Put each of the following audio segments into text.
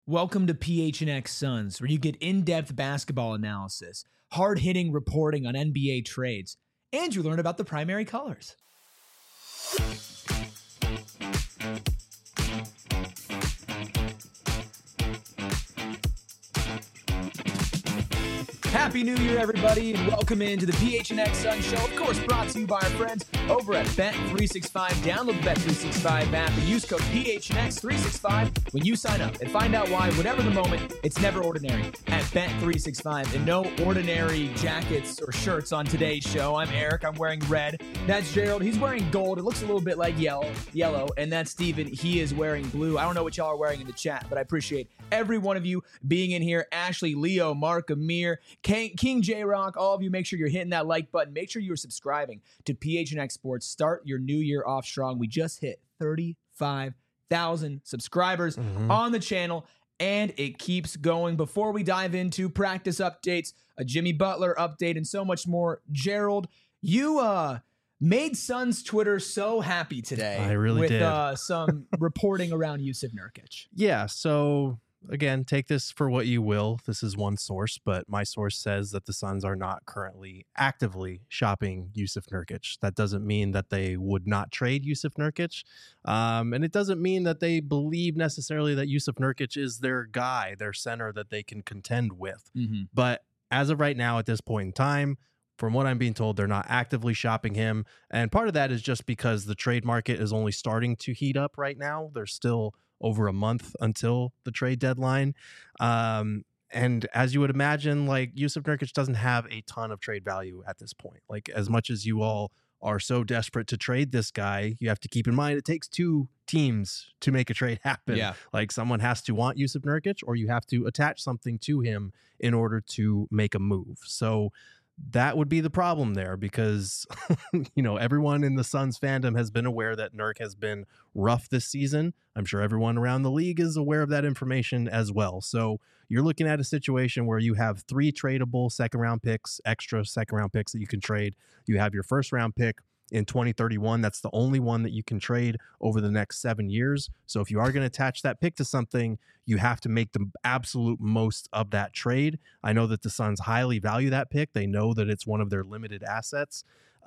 Welcome to PHNX Suns, where you get in-depth basketball analysis, hard-hitting reporting on NBA trades, and you learn about the primary colors. Happy New Year, everybody, and welcome into the PHNX Sun Show. Of course, brought to you by our friends over at Bet365. Download the Bet365 app and use code PHNX365 when you sign up. And find out why, whatever the moment, it's never ordinary at Bet365. And no ordinary jackets or shirts on today's show. I'm Eric. I'm wearing red. That's Gerald. He's wearing gold. It looks a little bit like yellow. And that's Steven. He is wearing blue. I don't know what y'all are wearing in the chat, but I appreciate every one of you being in here. Ashley, Leo, Mark, Amir, King J-Rock, all of you, make sure you're hitting that like button. Make sure you're subscribing to PHNX Sports. Start your new year off strong. We just hit 35,000 subscribers on the channel, and it keeps going. Before we dive into practice updates, a Jimmy Butler update, and so much more, Gerald, you made Suns Twitter so happy today. I really did. With some reporting around Jusuf Nurkic. Yeah, so again, take this for what you will. This is one source, but my source says that the Suns are not currently actively shopping Jusuf Nurkic. That doesn't mean that they would not trade Jusuf Nurkic. And it doesn't mean that they believe necessarily that Jusuf Nurkic is their guy, their center that they can contend with. But as of right now, at this point in time, from what I'm being told, they're not actively shopping him. And part of that is just because the trade market is only starting to heat up right now. There's still over a month until the trade deadline. And as you would imagine, like, Jusuf Nurkic doesn't have a ton of trade value at this point. Like, as much as you all are so desperate to trade this guy, you have to keep in mind it takes two teams to make a trade happen. Yeah. Like, someone has to want Jusuf Nurkic, or you have to attach something to him in order to make a move. So that would be the problem there, because, you know, everyone in the Suns fandom has been aware that Nurk has been rough this season. I'm sure everyone around the league is aware of that information as well. So you're looking at a situation where you have 3 tradable second-round picks, extra second-round picks that you can trade. You have your first-round pick in 2031. That's the only one that you can trade over the next 7 years. So if you are going to attach that pick to something, you have to make the absolute most of that trade. I know that the Suns highly value that pick. They know that it's one of their limited assets.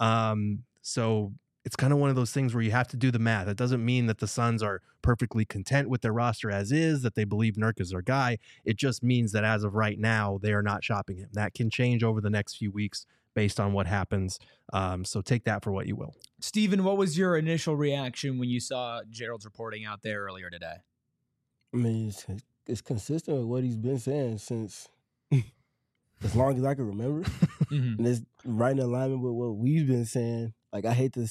So it's kind of one of those things where you have to do the math. It doesn't mean that the Suns are perfectly content with their roster as is, that they believe Nurk is their guy. It just means that as of right now, they are not shopping him. That can change over the next few weeks based on what happens. So take that for what you will. Steven, what was your initial reaction when you saw Gerald's reporting out there earlier today? I mean, it's consistent with what he's been saying since as long as I can remember. And it's right in alignment with what we've been saying. Like, I hate to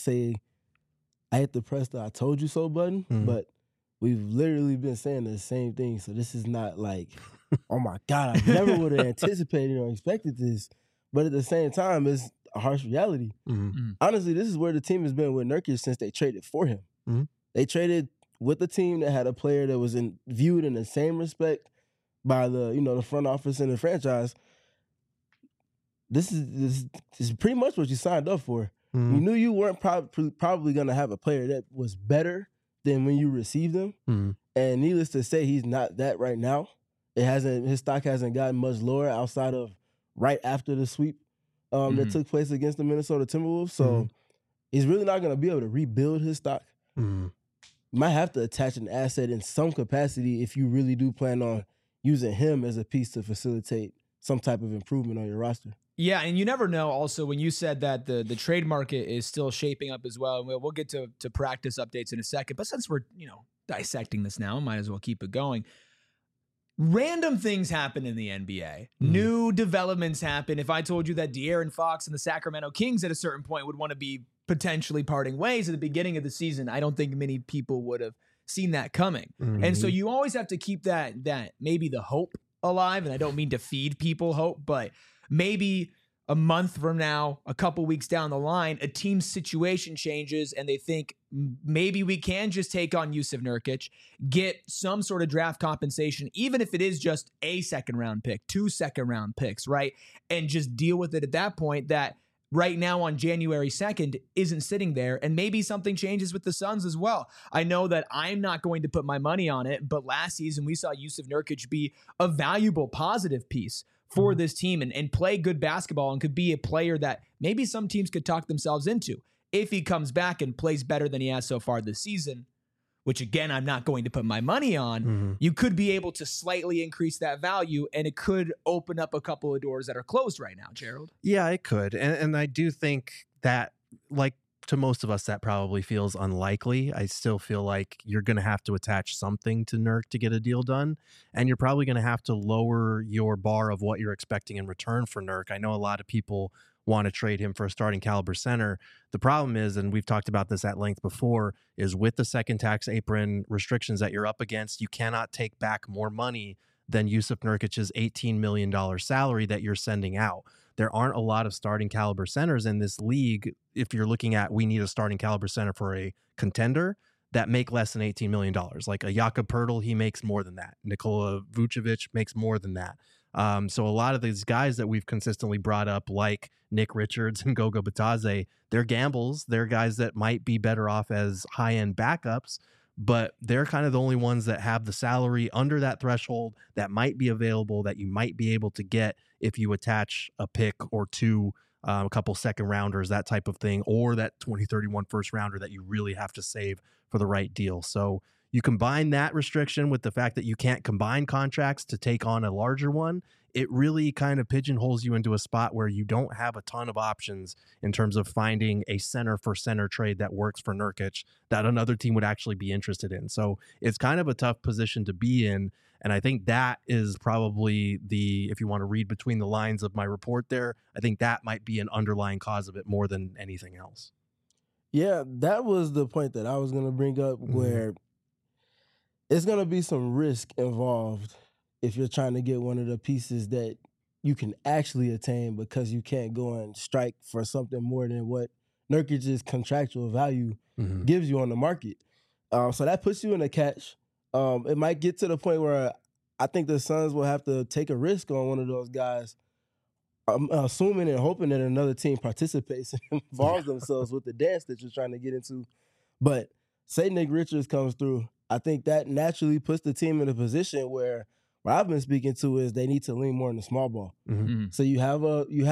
press the I told you so button, but we've literally been saying the same thing. So this is not like, oh my God, I never would have anticipated or expected this. But at the same time, it's a harsh reality. Honestly, this is where the team has been with Nurkic since they traded for him. They traded with a team that had a player that was viewed in the same respect by the front office and the franchise. This is pretty much what you signed up for. You knew you weren't probably going to have a player that was better than when you received him. And needless to say, he's not that right now. His stock hasn't gotten much lower outside of right after the sweep that took place against the Minnesota Timberwolves. So he's really not going to be able to rebuild his stock. You might have to attach an asset in some capacity if you really do plan on using him as a piece to facilitate some type of improvement on your roster. Yeah, and you never know also when you said that the trade market is still shaping up as well. And we'll get to practice updates in a second. But since we're, dissecting this now, might as well keep it going. Random things happen in the NBA. New developments happen. If I told you that De'Aaron Fox and the Sacramento Kings at a certain point would want to be potentially parting ways at the beginning of the season, I don't think many people would have seen that coming. And so you always have to keep that maybe the hope alive. And I don't mean to feed people hope, but maybe a month from now, a couple weeks down the line, a team's situation changes and they think maybe we can just take on Jusuf Nurkic, get some sort of draft compensation, even if it is just a second round pick, 2 second round picks, right? And just deal with it at that point. That right now on January 2nd isn't sitting there, and maybe something changes with the Suns as well. I know that I'm not going to put my money on it, but last season we saw Jusuf Nurkic be a valuable positive piece for this team and play good basketball and could be a player that maybe some teams could talk themselves into if he comes back and plays better than he has so far this season, which again, I'm not going to put my money on. You could be able to slightly increase that value, and it could open up a couple of doors that are closed right now, Gerald. Yeah, it could. And I do think that, like, to most of us, that probably feels unlikely. I still feel like you're going to have to attach something to Nurk to get a deal done. And you're probably going to have to lower your bar of what you're expecting in return for Nurk. I know a lot of people want to trade him for a starting caliber center. The problem is, and we've talked about this at length before, is with the second tax apron restrictions that you're up against, you cannot take back more money than Jusuf Nurkic's $18 million salary that you're sending out. There aren't a lot of starting caliber centers in this league. If you're looking at, we need a starting caliber center for a contender, that make less than $18 million. Like a Jakob Poeltl, he makes more than that. Nikola Vucevic makes more than that. So a lot of these guys that we've consistently brought up, like Nick Richards and Goga Bitadze, they're gambles. They're guys that might be better off as high-end backups, but they're kind of the only ones that have the salary under that threshold that might be available, that you might be able to get if you attach a pick or two, a couple second rounders, that type of thing, or that 2031 first rounder that you really have to save for the right deal. So you combine that restriction with the fact that you can't combine contracts to take on a larger one, it really kind of pigeonholes you into a spot where you don't have a ton of options in terms of finding a center for center trade that works for Nurkic that another team would actually be interested in. So it's kind of a tough position to be in. And I think that is probably if you want to read between the lines of my report there, I think that might be an underlying cause of it more than anything else. Yeah, that was the point that I was going to bring up, where it's going to be some risk involved if you're trying to get one of the pieces that you can actually attain, because you can't go and strike for something more than what Nurkic's contractual value gives you on the market. So that puts you in a catch. It might get to the point where I think the Suns will have to take a risk on one of those guys, assuming and hoping that another team participates and involves themselves with the dance that you're trying to get into. But say Nick Richards comes through, I think that naturally puts the team in a position where what I've been speaking to is they need to lean more in the small ball. So you have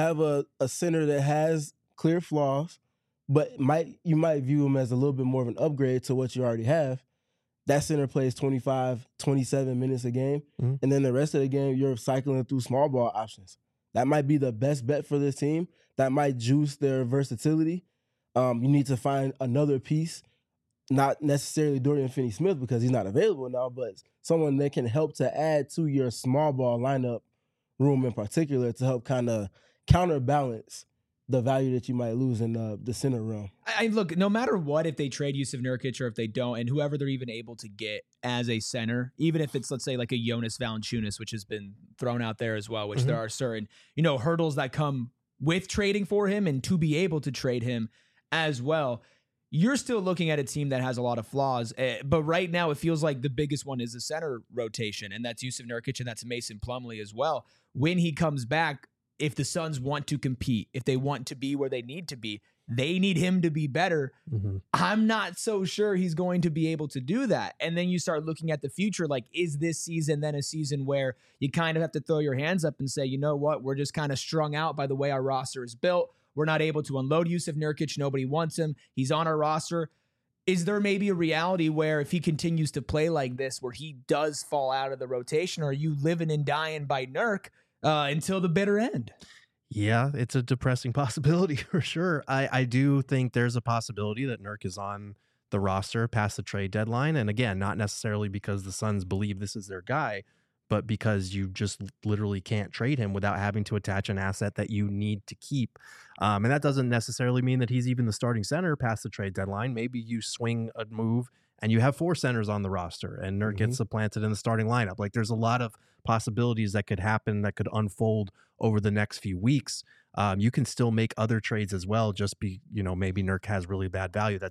a center that has clear flaws, but you might view him as a little bit more of an upgrade to what you already have. That center plays 25, 27 minutes a game, and then the rest of the game you're cycling through small ball options. That might be the best bet for this team. That might juice their versatility. You need to find another piece, not necessarily Dorian Finney-Smith because he's not available now, but someone that can help to add to your small ball lineup room in particular to help kind of counterbalance the value that you might lose in the center realm. I look, no matter what, if they trade Jusuf Nurkic or if they don't, and whoever they're even able to get as a center, even if it's, let's say, like a Jonas Valanciunas, which has been thrown out there as well, which there are certain, hurdles that come with trading for him and to be able to trade him as well. You're still looking at a team that has a lot of flaws, but right now it feels like the biggest one is the center rotation, and that's Jusuf Nurkic and that's Mason Plumlee as well. When he comes back, if the Suns want to compete, if they want to be where they need to be, they need him to be better. I'm not so sure he's going to be able to do that. And then you start looking at the future, like, is this season then a season where you kind of have to throw your hands up and say, you know what, we're just kind of strung out by the way our roster is built. We're not able to unload Jusuf Nurkic. Nobody wants him. He's on our roster. Is there maybe a reality where if he continues to play like this, where he does fall out of the rotation, or are you living and dying by Nurk until the bitter end? Yeah, it's a depressing possibility for sure. I do think there's a possibility that Nurk is on the roster past the trade deadline. And again, not necessarily because the Suns believe this is their guy, but because you just literally can't trade him without having to attach an asset that you need to keep. And that doesn't necessarily mean that he's even the starting center past the trade deadline. Maybe you swing a move and you have 4 centers on the roster and Nurk gets supplanted in the starting lineup. Like, there's a lot of possibilities that could happen, that could unfold over the next few weeks. You can still make other trades as well. Just maybe Nurk has really bad value. That doesn't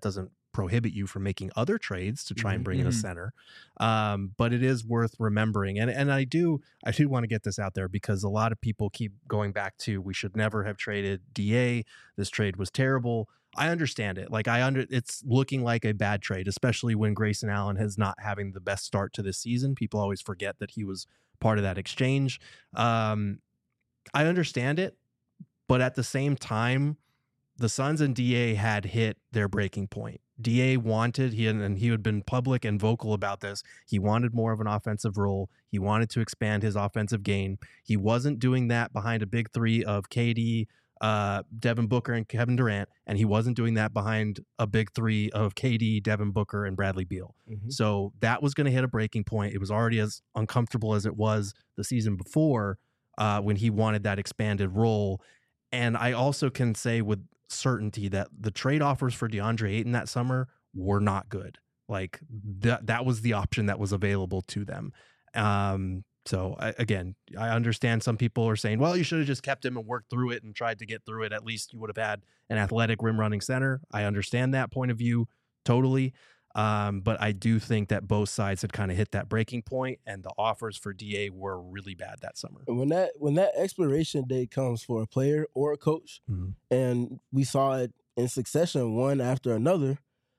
prohibit you from making other trades to try and bring in a center. But it is worth remembering. And I do want to get this out there because a lot of people keep going back to, we should never have traded DA. This trade was terrible. I understand it. Like it's looking like a bad trade, especially when Grayson Allen is not having the best start to this season. People always forget that he was part of that exchange. I understand it, but at the same time, the Suns and DA had hit their breaking point. DA wanted, he had been public and vocal about this. He wanted more of an offensive role. He wanted to expand his offensive game. He wasn't doing that behind a big three of KD, Devin Booker, and Kevin Durant, and he wasn't doing that behind a big three of KD, Devin Booker, and Bradley Beal. So that was going to hit a breaking point. It was already as uncomfortable as it was the season before when he wanted that expanded role. And I also can say with certainty that the trade offers for DeAndre Ayton that summer were not good. Like that was the option that was available to them. So I understand some people are saying, well, you should have just kept him and worked through it and tried to get through it. At least you would have had an athletic rim running center. I understand that point of view totally. But I do think that both sides had kind of hit that breaking point, and the offers for DA were really bad that summer. And when that expiration date comes for a player or a coach, and we saw it in succession, one after another,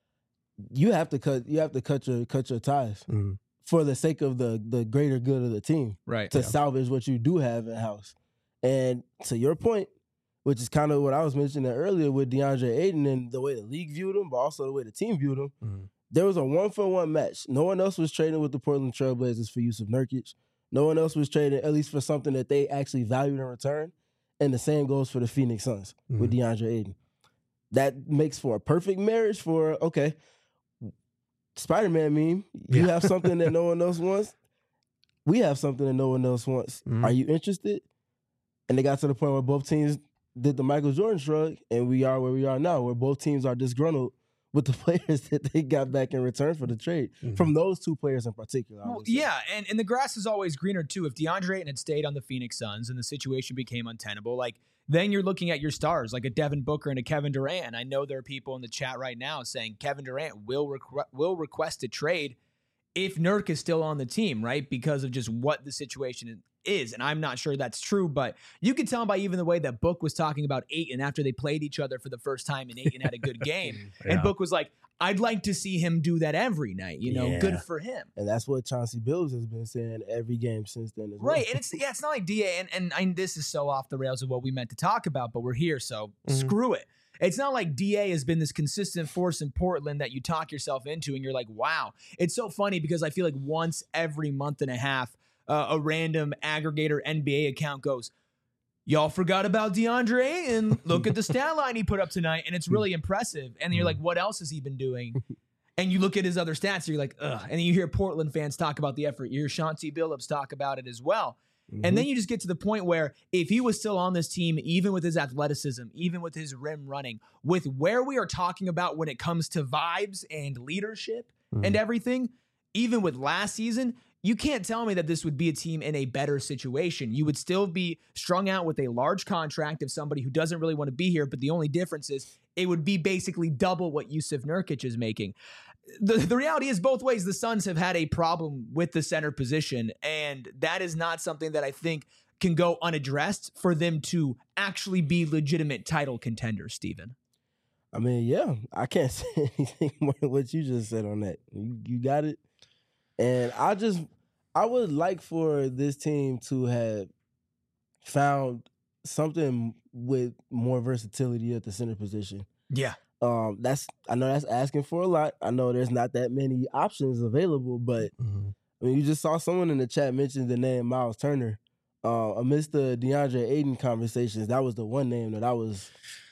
you have to cut your ties for the sake of the greater good of the team, right? To salvage what you do have in house. And to your point, which is kind of what I was mentioning earlier with DeAndre Ayton and the way the league viewed him, but also the way the team viewed him. There was a 1-for-1 match. No one else was trading with the Portland Trailblazers for Jusuf Nurkic. No one else was trading, at least for something that they actually valued in return. And the same goes for the Phoenix Suns with DeAndre Ayton. That makes for a perfect marriage for, okay, Spider-Man meme, you have something that no one else wants. We have something that no one else wants. Are you interested? And they got to the point where both teams did the Michael Jordan shrug, and we are where we are now, where both teams are disgruntled with the players that they got back in return for the trade, from those two players in particular. Well, yeah, and the grass is always greener, too. If DeAndre Ayton had stayed on the Phoenix Suns and the situation became untenable, like, then you're looking at your stars, like a Devin Booker and a Kevin Durant. I know there are people in the chat right now saying Kevin Durant will request a trade if Nurk is still on the team, right? Because of just what the situation is. And I'm not sure that's true, but you can tell by even the way that Book was talking about Ayton after they played each other for the first time and Ayton had a good game. And Book was like, I'd like to see him do that every night, good for him. And that's what Chauncey Billups has been saying every game since then as well. Right, and it's not like DA, and this is so off the rails of what we meant to talk about, but we're here, so screw it. It's not like DA has been this consistent force in Portland that you talk yourself into and you're like, wow. It's so funny because I feel like once every month and a half, a random aggregator NBA account goes, y'all forgot about DeAndre Ayton. Look at the stat line he put up tonight, and it's really impressive. And then you're like, what else has he been doing? And you look at his other stats, and you're like, ugh. And then you hear Portland fans talk about the effort. You hear Chauncey Billups talk about it as well. And then you just get to the point where if he was still on this team, even with his athleticism, even with his rim running, with where we are talking about when it comes to vibes and leadership and everything, even with last season, you can't tell me that this would be a team in a better situation. You would still be strung out with a large contract of somebody who doesn't really want to be here, but the only difference is it would be basically double what Jusuf Nurkic is making. The reality is both ways the Suns have had a problem with the center position, and that is not something that I think can go unaddressed for them to actually be legitimate title contenders, Steven. I mean, yeah, I can't say anything more than what you just said on that. You got it. And I would like for this team to have found something with more versatility at the center position. Yeah. I know that's asking for a lot. I know there's not that many options available, but I mean, you just saw someone in the chat mention the name Miles Turner. Amidst the DeAndre Ayton conversations, that was the one name that I was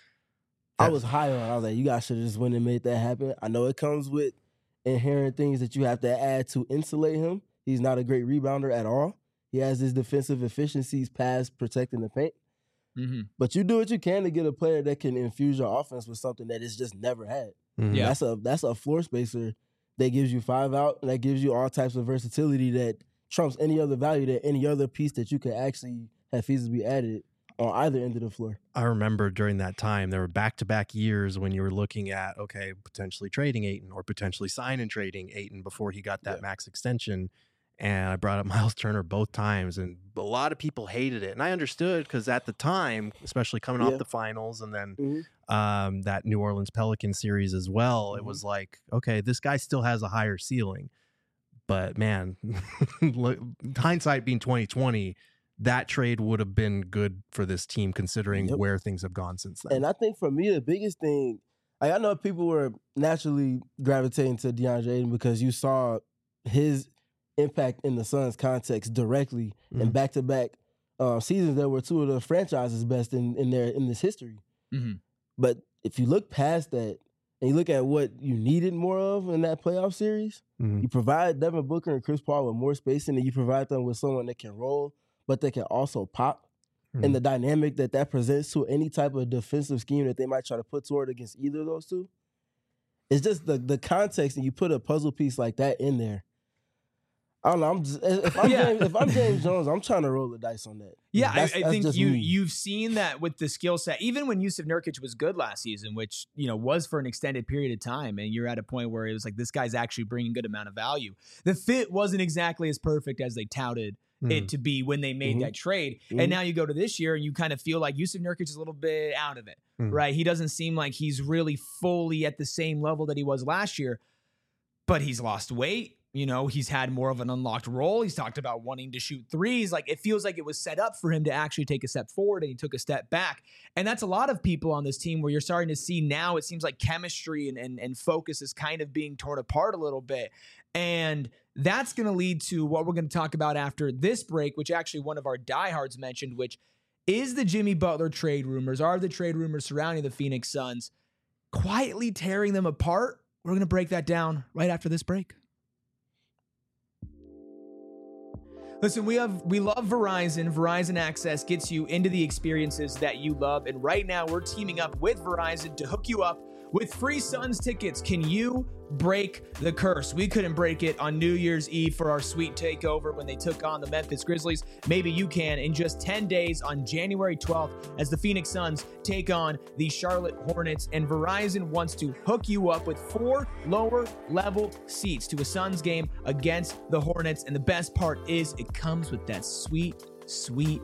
high on. I was like, you guys should have just went and made that happen. I know it comes with inherent things that you have to add to insulate him. He's not a great rebounder at all. He has his defensive efficiencies past protecting the paint. But you do what you can to get a player that can infuse your offense with something that it's just never had. Yeah. That's a floor spacer that gives you 5 out, and that gives you all types of versatility that trumps any other value that any other piece that you could actually have feasibly added on either end of the floor. I remember during that time, there were back-to-back years when you were looking at, okay, potentially trading Ayton or potentially sign and trading Ayton before he got that max extension. And I brought up Miles Turner both times, and a lot of people hated it. And I understood because at the time, especially coming off the finals and then that New Orleans Pelicans series as well, it was like, okay, this guy still has a higher ceiling. But man, hindsight being 2020, that trade would have been good for this team considering where things have gone since then. And I think for me, the biggest thing, like I know people were naturally gravitating to DeAndre Ayton because you saw his impact in the Suns context directly and back-to-back seasons that were two of the franchise's best in this history. But if you look past that and you look at what you needed more of in that playoff series, you provide Devin Booker and Chris Paul with more spacing, and you provide them with someone that can roll, but they can also pop. And the dynamic that presents to any type of defensive scheme that they might try to put toward against either of those two. It's just the context, and you put a puzzle piece like that in there. I don't know. If I'm James Jones, I'm trying to roll the dice on that. Yeah, I think you've seen that with the skill set. Even when Jusuf Nurkic was good last season, which was for an extended period of time, and you're at a point where it was like this guy's actually bringing a good amount of value. The fit wasn't exactly as perfect as they touted it to be when they made that trade. And now you go to this year and you kind of feel like Jusuf Nurkic is a little bit out of it, right? He doesn't seem like he's really fully at the same level that he was last year, but he's lost weight. He's had more of an unlocked role. He's talked about wanting to shoot threes. Like, it feels like it was set up for him to actually take a step forward, and he took a step back. And that's a lot of people on this team where you're starting to see now it seems like chemistry and focus is kind of being torn apart a little bit. And that's going to lead to what we're going to talk about after this break, which actually one of our diehards mentioned, which is the Jimmy Butler trade rumors. Are the trade rumors surrounding the Phoenix Suns quietly tearing them apart? We're going to break that down right after this break. Listen, we love Verizon. Verizon Access gets you into the experiences that you love. And right now we're teaming up with Verizon to hook you up with free Suns tickets. Can you break the curse? We couldn't break it on New Year's Eve for our sweet takeover when they took on the Memphis Grizzlies. Maybe you can in just 10 days on January 12th as the Phoenix Suns take on the Charlotte Hornets. And Verizon wants to hook you up with 4 lower level seats to a Suns game against the Hornets. And the best part is it comes with that sweet, sweet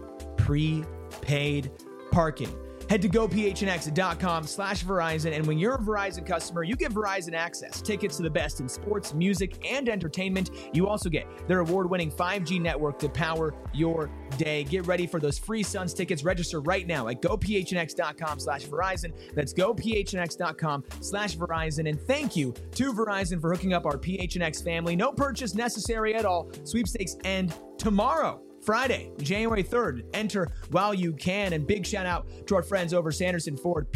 prepaid parking. Head to gophnx.com/Verizon, and when you're a Verizon customer, you get Verizon Access, tickets to the best in sports, music, and entertainment. You also get their award-winning 5G network to power your day. Get ready for those free Suns tickets. Register right now at gophnx.com/Verizon. That's gophnx.com/Verizon. And thank you to Verizon for hooking up our PHNX family. No purchase necessary at all. Sweepstakes end tomorrow, Friday, January 3rd. Enter while you can. And big shout out to our friends over Sanderson Ford.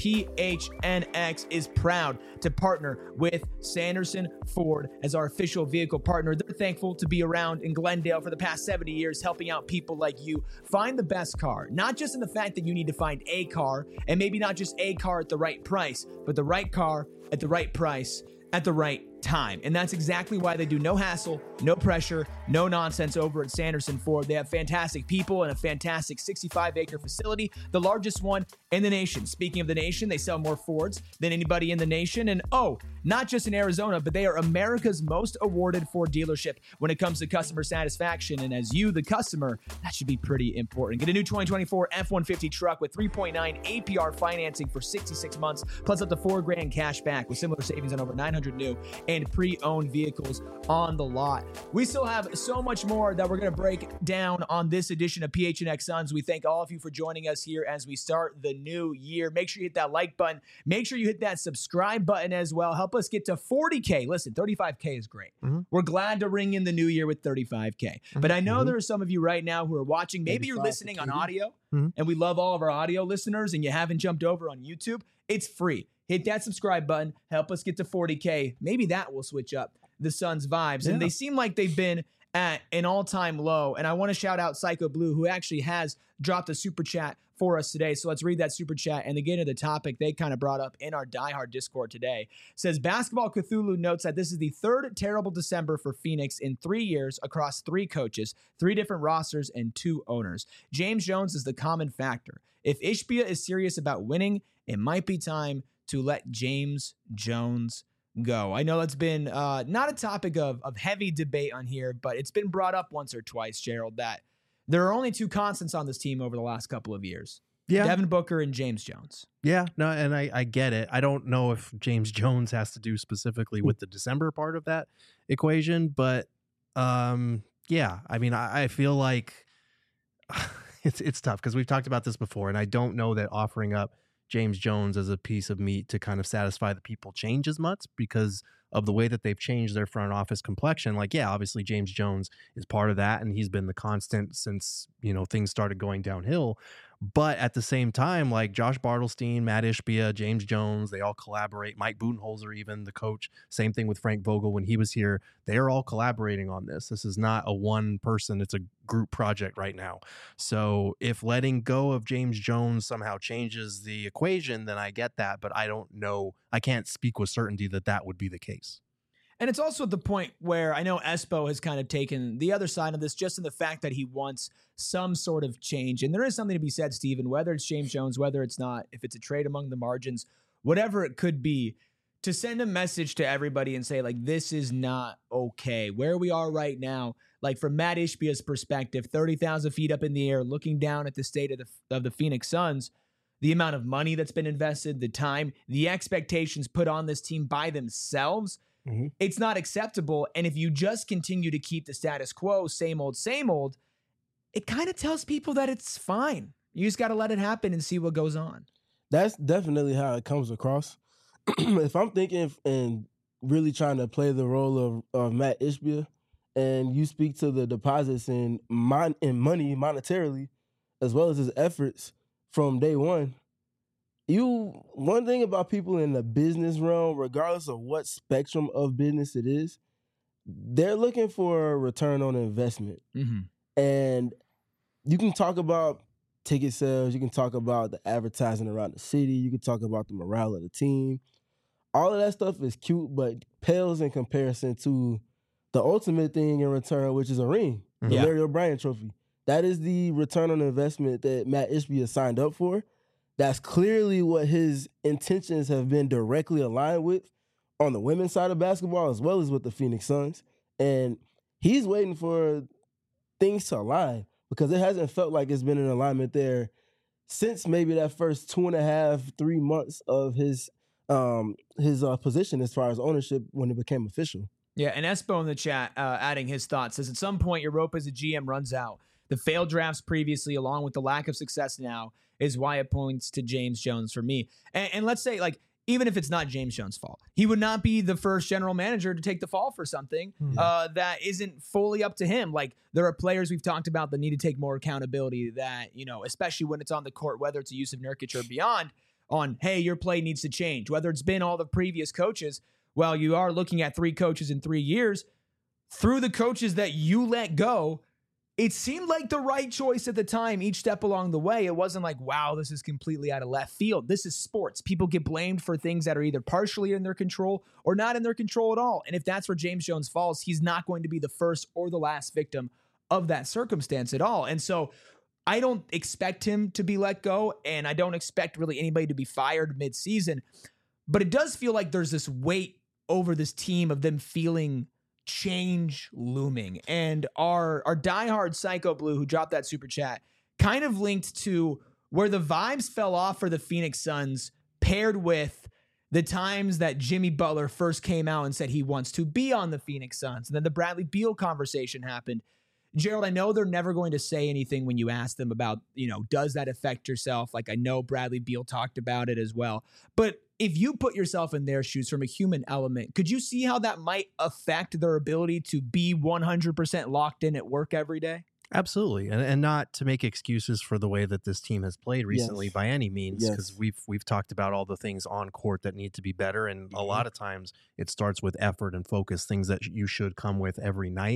PHNX is proud to partner with Sanderson Ford as our official vehicle partner. They're thankful to be around in Glendale for the past 70 years, helping out people like you find the best car. Not just in the fact that you need to find a car, and maybe not just a car at the right price, but the right car at the right price at the right time. And that's exactly why they do no hassle, no pressure, no nonsense over at Sanderson Ford. They have fantastic people and a fantastic 65-acre facility, the largest one in the nation. Speaking of the nation, they sell more Fords than anybody in the nation. And not just in Arizona, but they are America's most awarded Ford dealership when it comes to customer satisfaction. And as you, the customer, that should be pretty important. Get a new 2024 F-150 truck with 3.9 APR financing for 66 months, plus up to $4,000 cash back with similar savings on over 900 new and pre-owned vehicles on the lot. We still have so much more that we're going to break down on this edition of PHNX Suns. We thank all of you for joining us here as we start the new year. Make sure you hit that like button. Make sure you hit that subscribe button as well. Help us get to 40K. Listen, 35K is great. We're glad to ring in the new year with 35K. But I know there are some of you right now who are watching. Maybe you're listening on audio, and we love all of our audio listeners, and you haven't jumped over on YouTube. It's free. Hit that subscribe button. Help us get to 40K. Maybe that will switch up the Suns' vibes. And they seem like they've been at an all-time low. And I want to shout out Psycho Blue, who actually has dropped a super chat for us today. So let's read that super chat and to get into the topic they kind of brought up in our Die Hard Discord today. It says, Basketball Cthulhu notes that this is the third terrible December for Phoenix in 3 years across 3 coaches, 3 different rosters, and 2 owners. James Jones is the common factor. If Ishbia is serious about winning, it might be time to let James Jones go. I know that's been not a topic of heavy debate on here, but it's been brought up once or twice, Gerald, that there are only 2 constants on this team over the last couple of years. Yeah. Devin Booker and James Jones. Yeah, no, and I get it. I don't know if James Jones has to do specifically with the December part of that equation, but yeah, I mean, I feel like it's tough because we've talked about this before, and I don't know that offering up James Jones as a piece of meat to kind of satisfy the people changes much because of the way that they've changed their front office complexion. Like, yeah, obviously James Jones is part of that, and he's been the constant since, things started going downhill. But at the same time, like Josh Bartelstein, Matt Ishbia, James Jones, they all collaborate. Mike Budenholzer, even the coach, same thing with Frank Vogel when he was here. They are all collaborating on this. This is not a one person, it's a group project right now. So if letting go of James Jones somehow changes the equation, then I get that. But I don't know. I can't speak with certainty that that would be the case. And it's also at the point where I know Espo has kind of taken the other side of this just in the fact that he wants some sort of change. And there is something to be said, Steven, whether it's James Jones, whether it's not, if it's a trade among the margins, whatever it could be, to send a message to everybody and say, like, this is not okay. Where we are right now, like from Matt Ishbia's perspective, 30,000 feet up in the air, looking down at the state of the Phoenix Suns, the amount of money that's been invested, the time, the expectations put on this team by themselves, it's not acceptable. And if you just continue to keep the status quo, same old, it kind of tells people that it's fine. You just got to let it happen and see what goes on. That's definitely how it comes across. If I'm thinking and really trying to play the role of Matt Ishbia, and you speak to the deposits in money monetarily, as well as his efforts from day one, one thing about people in the business realm, regardless of what spectrum of business it is, they're looking for a return on investment. And you can talk about ticket sales, you can talk about the advertising around the city, you can talk about the morale of the team. All of that stuff is cute, but pales in comparison to the ultimate thing in return, which is a ring, the Larry O'Brien trophy. That is the return on investment that Matt Ishbia signed up for. That's clearly what his intentions have been directly aligned with on the women's side of basketball as well as with the Phoenix Suns. And he's waiting for things to align because it hasn't felt like it's been an alignment there since maybe that first 2.5, 3 months of his position as far as ownership when it became official. Yeah, and Espo in the chat adding his thoughts says, at some point your rope as a GM runs out. The failed drafts previously, along with the lack of success now, is why it points to James Jones for me. And let's say, like, even if it's not James Jones' fault, he would not be the first general manager to take the fall for something that isn't fully up to him. Like, there are players we've talked about that need to take more accountability that, especially when it's on the court, whether it's a Jusuf Nurkic or beyond, on, hey, your play needs to change. Whether it's been all the previous coaches, well, you are looking at 3 coaches in 3 years. Through the coaches that you let go, it seemed like the right choice at the time, each step along the way. It wasn't like, wow, this is completely out of left field. This is sports. People get blamed for things that are either partially in their control or not in their control at all. And if that's where James Jones falls, he's not going to be the first or the last victim of that circumstance at all. And so I don't expect him to be let go, and I don't expect really anybody to be fired mid-season. But it does feel like there's this weight over this team of them feeling change looming. And our diehard Psycho Blue, who dropped that super chat, kind of linked to where the vibes fell off for the Phoenix Suns, paired with the times that Jimmy Butler first came out and said he wants to be on the Phoenix Suns. And then the Bradley Beal conversation happened. Gerald, I know they're never going to say anything when you ask them about, does that affect yourself? Like, I know Bradley Beal talked about it as well. But if you put yourself in their shoes from a human element, could you see how that might affect their ability to be 100% locked in at work every day? Absolutely. And not to make excuses for the way that this team has played recently by any means, because we've talked about all the things on court that need to be better. And a lot of times it starts with effort and focus, things that you should come with every night.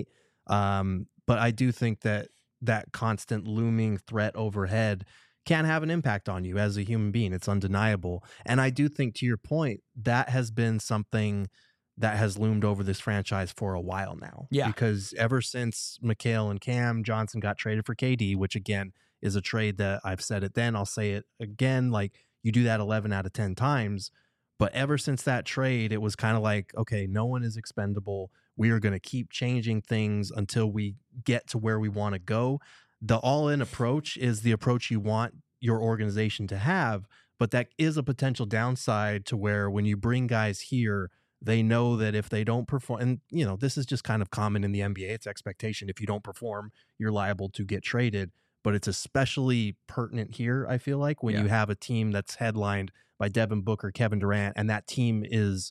But I do think that constant looming threat overhead can have an impact on you as a human being. It's undeniable. And I do think, to your point, that has been something that has loomed over this franchise for a while now. Yeah. Because ever since Mikal and Cam Johnson got traded for KD, which again is a trade that I've said it then, I'll say it again, like you do that 11 out of 10 times. But ever since that trade, it was kind of like, okay, no one is expendable. We are going to keep changing things until we get to where we want to go. The all-in approach is the approach you want your organization to have, but that is a potential downside to where when you bring guys here, they know that if they don't perform, and you know, this is just kind of common in the NBA, it's expectation. If you don't perform, you're liable to get traded, but it's especially pertinent here, I feel like, when you have a team that's headlined by Devin Booker, Kevin Durant, and that team is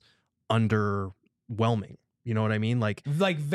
underwhelming. You know what I mean? Like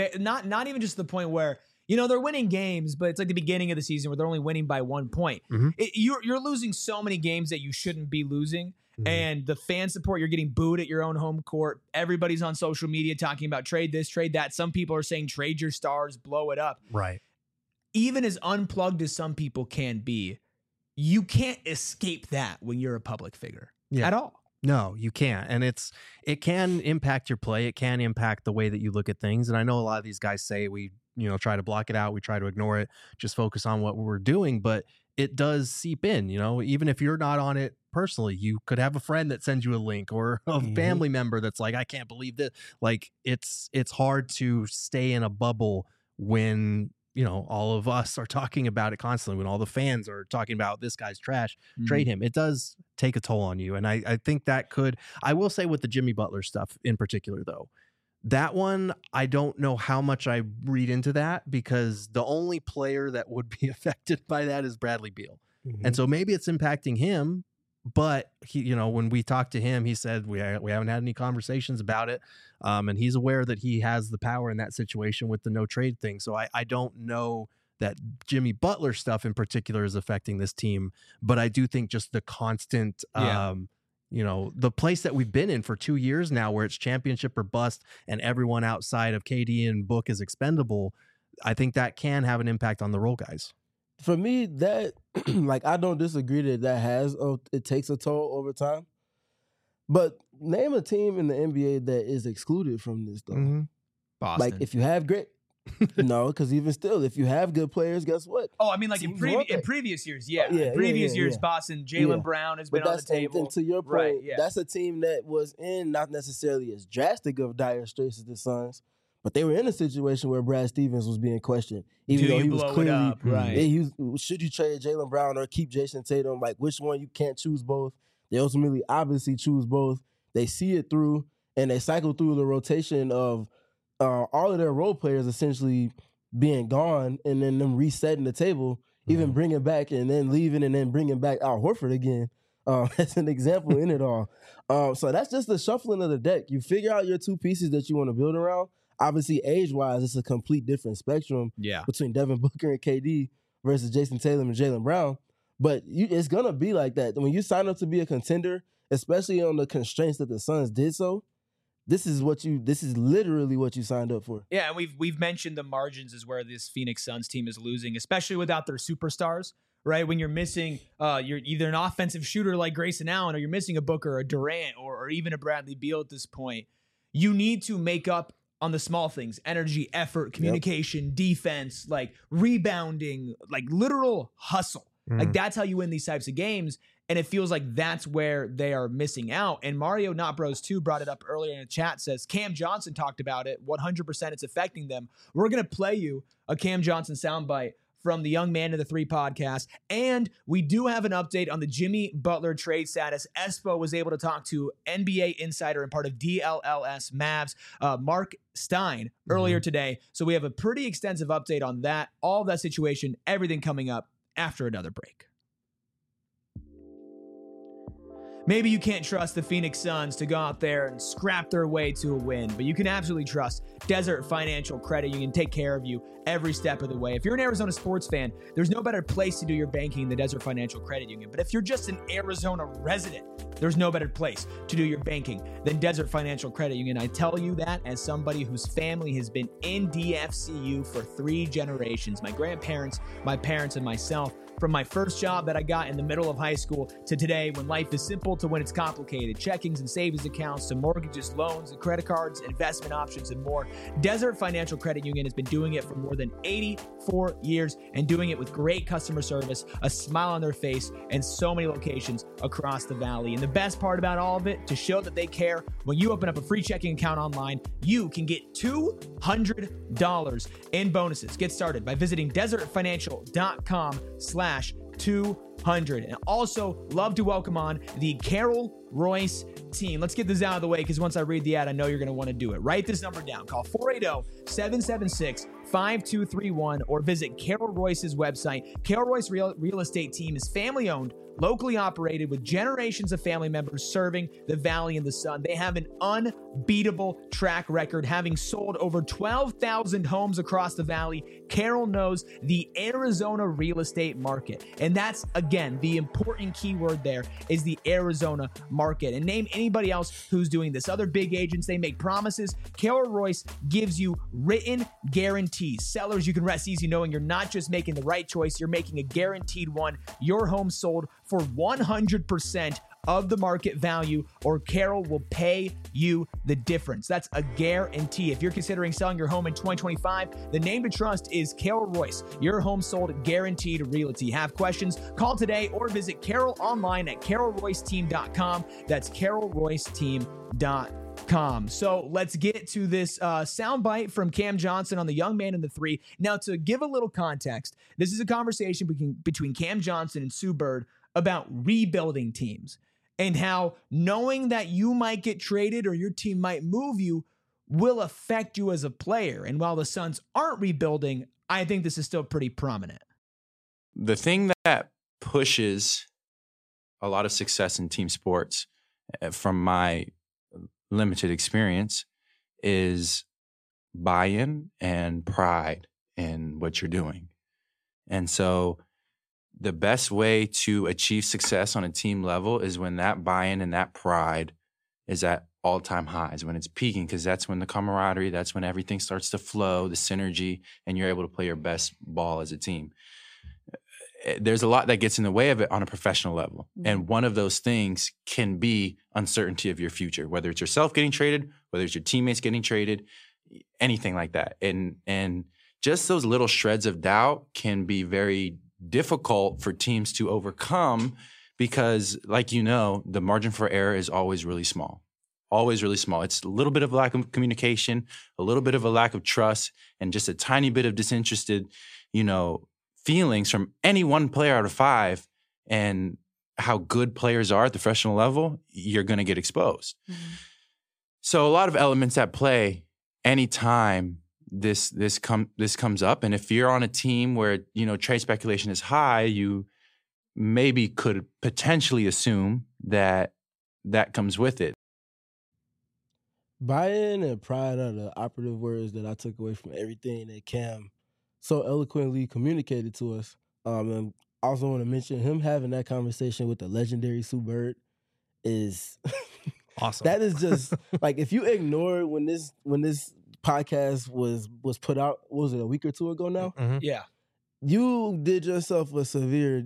not even just the point where, you know, they're winning games, but it's like the beginning of the season where they're only winning by 1 point. Mm-hmm. You're losing so many games that you shouldn't be losing. Mm-hmm. And the fan support, you're getting booed at your own home court. Everybody's on social media talking about trade this, trade that. Some people are saying trade your stars, blow it up. Right. Even as unplugged as some people can be, you can't escape that when you're a public figure at all. No, you can't. And it can impact your play. It can impact the way that you look at things. And I know a lot of these guys say we, you know, try to block it out. We try to ignore it, just focus on what we're doing. But it does seep in, you know, even if you're not on it personally, you could have a friend that sends you a link or a family member that's like, I can't believe this. Like it's hard to stay in a bubble when, you know, all of us are talking about it constantly, when all the fans are talking about this guy's trash, trade him. It does take a toll on you. And I think that I will say with the Jimmy Butler stuff in particular, though, that one, I don't know how much I read into that, because the only player that would be affected by that is Bradley Beal. Mm-hmm. And so maybe it's impacting him, but he, you know, when we talked to him, he said, we haven't had any conversations about it. And he's aware that he has the power in that situation with the no trade thing. So I don't know that Jimmy Butler stuff in particular is affecting this team, but I do think just the constant, you know, the place that we've been in for 2 years now, where it's championship or bust and everyone outside of KD and Book is expendable, I think that can have an impact on the role guys. For me, that like, I don't disagree that it takes a toll over time. But name a team in the NBA that is excluded from this, though. Mm-hmm. Boston. Like, if you have great, no, because even still, if you have good players, guess what? Oh, I mean, like in previous years, in previous years, Boston, Jaylen Brown has been on the table. And to your point, that's a team that was in not necessarily as drastic of dire straits as the Suns, but they were in a situation where Brad Stevens was being questioned. Even though he was clearly, should you trade Jaylen Brown or keep Jason Tatum? Like, which one? You can't choose both. They ultimately obviously choose both. They see it through, and they cycle through the rotation of all of their role players essentially being gone, and then them resetting the table, even bringing back and then leaving and then bringing back Al Horford again. That's an example in it all. So that's just the shuffling of the deck. You figure out your two pieces that you want to build around. Obviously, age-wise, it's a complete different spectrum between Devin Booker and KD versus Jason Tatum and Jaylen Brown. But it's going to be like that. When you sign up to be a contender, especially on the constraints that the Suns did so, this is literally what you signed up for. Yeah, and we've mentioned the margins is where this Phoenix Suns team is losing, especially without their superstars, right? When you're missing, you're either an offensive shooter like Grayson Allen, or you're missing a Booker, a Durant, or even a Bradley Beal at this point. You need to make up on the small things: energy, effort, communication, defense, like rebounding, like literal hustle. Like that's how you win these types of games. And it feels like that's where they are missing out. And Mario Not Bros 2 brought it up earlier in the chat, says Cam Johnson talked about it. 100% it's affecting them. We're going to play you a Cam Johnson soundbite from the Young Man to the Three podcast. And we do have an update on the Jimmy Butler trade status. Espo was able to talk to NBA insider and part of DLLS Mavs, Mark Stein, earlier today. So we have a pretty extensive update on that, all of that situation, everything coming up after another break. Maybe you can't trust the Phoenix Suns to go out there and scrap their way to a win, but you can absolutely trust Desert Financial Credit Union take care of you every step of the way. If you're an Arizona sports fan, there's no better place to do your banking than Desert Financial Credit Union. But if you're just an Arizona resident, there's no better place to do your banking than Desert Financial Credit Union. I tell you that as somebody whose family has been in DFCU for 3 generations. My grandparents, my parents, and myself. From my first job that I got in the middle of high school to today, when life is simple to when it's complicated, checkings and savings accounts to mortgages, loans, and credit cards, investment options, and more, Desert Financial Credit Union has been doing it for more than 84 years and doing it with great customer service, a smile on their face, and so many locations across the valley. And the best part about all of it, to show that they care, when you open up a free checking account online, you can get $200 in bonuses. Get started by visiting desertfinancial.com/200. And also love to welcome on the Carol Royce team. Let's get this out of the way, because once I read the ad, I know you're going to want to do it. Write this number down. Call 480-776-5231 or visit Carol Royce's website. Carol Royce Real Estate Team is family owned, locally operated, with generations of family members serving the Valley and the Sun. They have an unbeatable track record, having sold over 12,000 homes across the Valley. Carol knows the Arizona real estate market. And that's, again, the important keyword there is the Arizona market. And name anybody else who's doing this. Other big agents, they make promises. Carol Royce gives you written guarantees. Sellers, you can rest easy knowing you're not just making the right choice, you're making a guaranteed one. Your home sold for 100% of the market value, or Carol will pay you the difference. That's a guarantee. If you're considering selling your home in 2025, the name to trust is Carol Royce, your home sold guaranteed realty. Have questions? Call today or visit Carol online at carolroyceteam.com. That's carolroyceteam.com. So let's get to this soundbite from Cam Johnson on the young man in the 3. Now, to give a little context, this is a conversation between Cam Johnson and Sue Bird about rebuilding teams and how knowing that you might get traded or your team might move you will affect you as a player. And while the Suns aren't rebuilding, I think this is still pretty prominent. The thing that pushes a lot of success in team sports, from my limited experience, is buy-in and pride in what you're doing. And so the best way to achieve success on a team level is when that buy-in and that pride is at all-time highs, when it's peaking, because that's when the camaraderie, that's when everything starts to flow, the synergy, and you're able to play your best ball as a team. There's a lot that gets in the way of it on a professional level. And one of those things can be uncertainty of your future, whether it's yourself getting traded, whether it's your teammates getting traded, anything like that. And just those little shreds of doubt can be very difficult for teams to overcome, because, like, you know, the margin for error is always really small. Always really small. It's a little bit of a lack of communication, a little bit of a lack of trust, and just a tiny bit of disinterested, feelings from any one player out of 5, and how good players are at the professional level, you're going to get exposed. Mm-hmm. So a lot of elements at play anytime this comes up. And if you're on a team where, trade speculation is high, you maybe could potentially assume that comes with it. Buy-in and pride are the operative words that I took away from everything that Cam so eloquently communicated to us. And also want to mention him having that conversation with the legendary Sue Bird is awesome. That is just like, if you ignore when this podcast was put out, what was it, a week or two ago now? Mm-hmm. Yeah. You did yourself a severe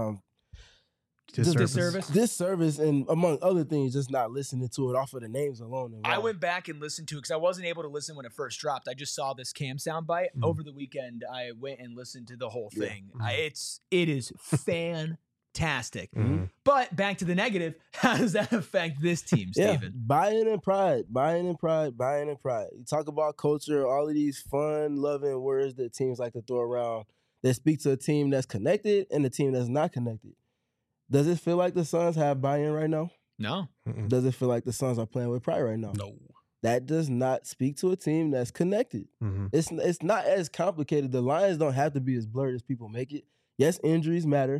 disservice, and among other things, just not listening to it off of the names alone. I went back and listened to it because I wasn't able to listen when it first dropped. I just saw this Cam soundbite over the weekend. I went and listened to the whole thing. It is fantastic. Mm-hmm. But back to the negative, how does that affect this team, Steven? Buy-in and pride. You talk about culture, all of these fun, loving words that teams like to throw around that speak to a team that's connected and a team that's not connected. Does it feel like the Suns have buy-in right now? No. Mm-mm. Does it feel like the Suns are playing with pride right now? No. That does not speak to a team that's connected. Mm-hmm. It's not as complicated. The lines don't have to be as blurred as people make it. Yes, injuries matter,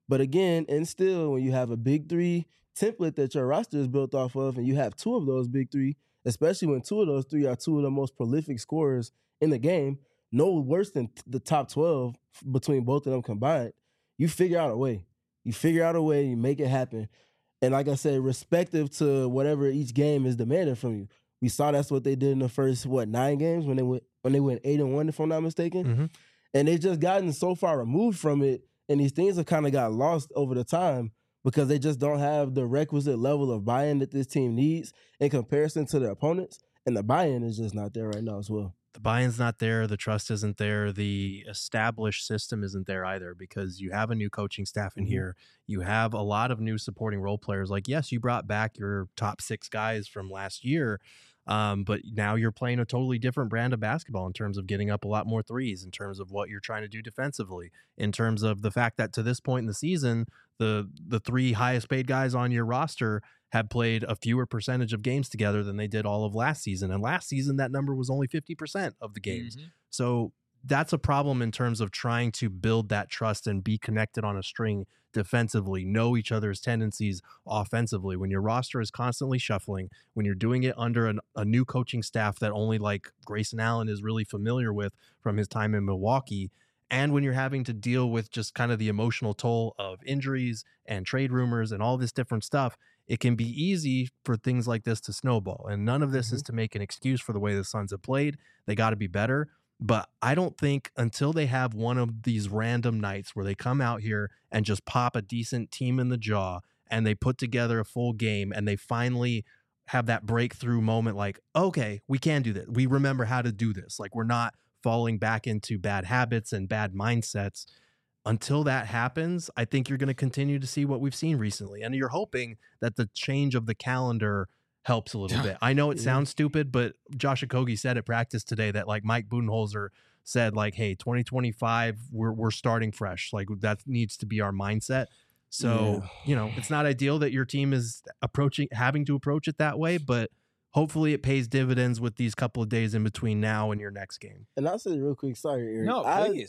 But again, and still, when you have a big three template that your roster is built off of, and you have two of those big three, especially when two of those three are two of the most prolific scorers in the game, no worse than the top 12 between both of them combined, you figure out a way. You figure out a way, you make it happen. And like I said, respective to whatever each game is demanding from you. We saw that's what they did in the first 9 games when they went 8-1, if I'm not mistaken. Mm-hmm. And they've just gotten so far removed from it, and these things have kind of got lost over the time because they just don't have the requisite level of buy-in that this team needs in comparison to their opponents. And the buy-in is just not there right now as well. The buy-in's not there. The trust isn't there. The established system isn't there either because you have a new coaching staff in here. You have a lot of new supporting role players. Like, yes, you brought back your top 6 guys from last year, but now you're playing a totally different brand of basketball in terms of getting up a lot more threes, in terms of what you're trying to do defensively, in terms of the fact that to this point in the season, the 3 highest paid guys on your roster have played a fewer percentage of games together than they did all of last season. And last season, that number was only 50% of the games. Mm-hmm. So that's a problem in terms of trying to build that trust and be connected on a string defensively, know each other's tendencies offensively. When your roster is constantly shuffling, when you're doing it under a new coaching staff that only like Grayson Allen is really familiar with from his time in Milwaukee, and when you're having to deal with just kind of the emotional toll of injuries and trade rumors and all this different stuff, it can be easy for things like this to snowball. And none of this is to make an excuse for the way the Suns have played. They got to be better. But I don't think until they have one of these random nights where they come out here and just pop a decent team in the jaw and they put together a full game and they finally have that breakthrough moment like, okay, we can do this. We remember how to do this. Like, we're not falling back into bad habits and bad mindsets. Until that happens, I think you're going to continue to see what we've seen recently. And you're hoping that the change of the calendar helps a little bit. I know it sounds stupid, but Josh Okogie said at practice today that like Mike Budenholzer said like, hey, 2025, we're starting fresh. Like that needs to be our mindset. So, it's not ideal that your team is having to approach it that way, but hopefully it pays dividends with these couple of days in between now and your next game. And I'll say real quick, sorry, Eric. No, please.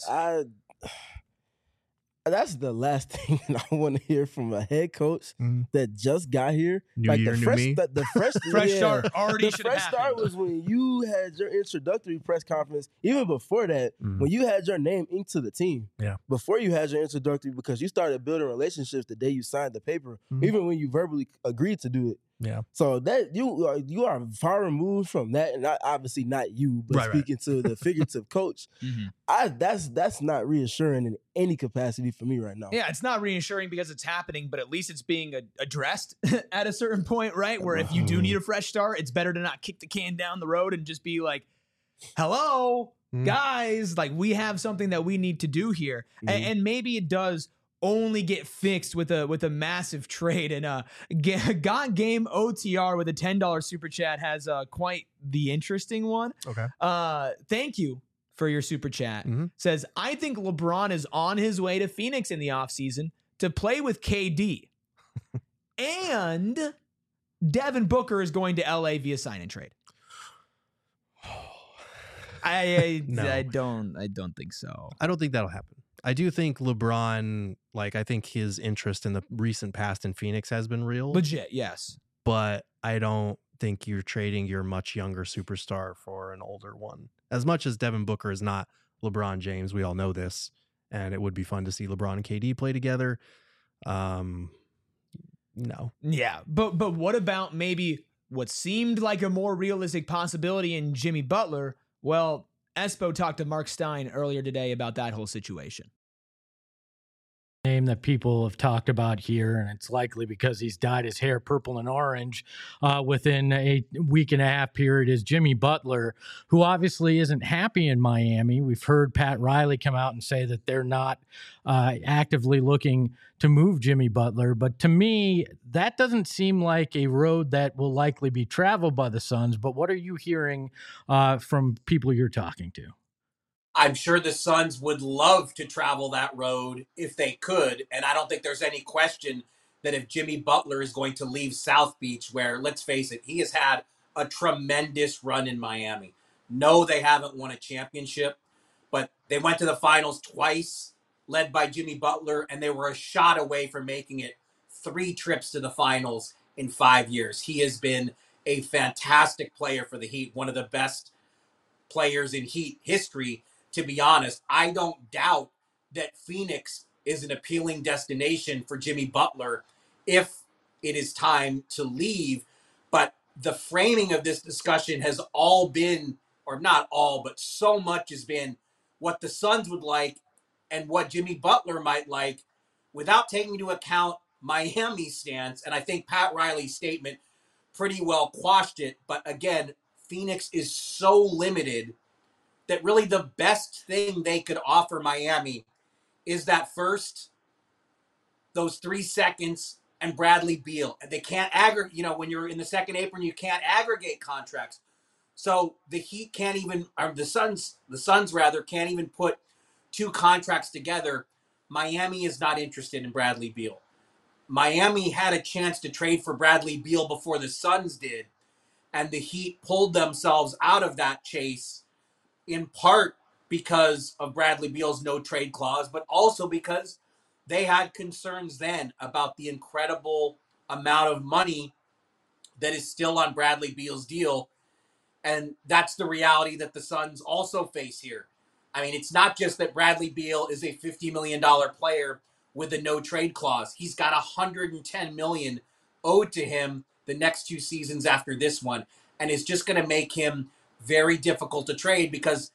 That's the last thing I want to hear from a head coach that just got here. New year, new me. The fresh start already should have happened. The fresh start was when you had your introductory press conference. Even before that, when you had your name inked to the team. Yeah. Before you had your introductory, because you started building relationships the day you signed the paper, even when you verbally agreed to do it. Yeah. So that you are far removed from that, and obviously not you, but speaking to the figurative coach, that's not reassuring in any capacity for me right now. Yeah, it's not reassuring because it's happening, but at least it's being addressed at a certain point, right? Where if you do need a fresh start, it's better to not kick the can down the road and just be like, hello, guys, like we have something that we need to do here. And maybe it does only get fixed with a massive trade. And Got Game OTR with a $10 super chat has quite the interesting one. Okay. Thank you for your super chat. Says, I think LeBron is on his way to Phoenix in the offseason to play with KD. And Devin Booker is going to LA via sign and trade. I don't think so. I don't think that'll happen. I do think LeBron, I think his interest in the recent past in Phoenix has been real. Legit, yes. But I don't think you're trading your much younger superstar for an older one. As much as Devin Booker is not LeBron James, we all know this, and it would be fun to see LeBron and KD play together. No. Yeah, but what about maybe what seemed like a more realistic possibility in Jimmy Butler? Well, Espo talked to Mark Stein earlier today about that whole situation. Name that people have talked about here, and it's likely because he's dyed his hair purple and orange within a week and a half period, is Jimmy Butler, who obviously isn't happy in Miami. We've heard Pat Riley come out and say that they're not actively looking to move Jimmy Butler. But to me, that doesn't seem like a road that will likely be traveled by the Suns. But what are you hearing from people you're talking to? I'm sure the Suns would love to travel that road if they could. And I don't think there's any question that if Jimmy Butler is going to leave South Beach, where, let's face it, he has had a tremendous run in Miami. No, they haven't won a championship, but they went to the finals twice. led by Jimmy Butler, and they were a shot away from making it 3 trips to the finals in 5 years. He has been a fantastic player for the Heat, one of the best players in Heat history, to be honest. I don't doubt that Phoenix is an appealing destination for Jimmy Butler if it is time to leave. But the framing of this discussion has all been, or not all, but so much has been what the Suns would like and what Jimmy Butler might like, without taking into account Miami's stance. And I think Pat Riley's statement pretty well quashed it. But again, Phoenix is so limited that really the best thing they could offer Miami is that first, those 3 seconds, and Bradley Beal. And they can't aggregate, when you're in the second apron, you can't aggregate contracts. So the Heat can't even, or the Suns rather, can't even put 2 contracts together. Miami is not interested in Bradley Beal. Miami had a chance to trade for Bradley Beal before the Suns did, and the Heat pulled themselves out of that chase, in part because of Bradley Beal's no trade clause, but also because they had concerns then about the incredible amount of money that is still on Bradley Beal's deal. And that's the reality that the Suns also face here. I mean, it's not just that Bradley Beal is a $50 million player with a no trade clause. He's got $110 million owed to him the next 2 seasons after this one. And it's just going to make him very difficult to trade because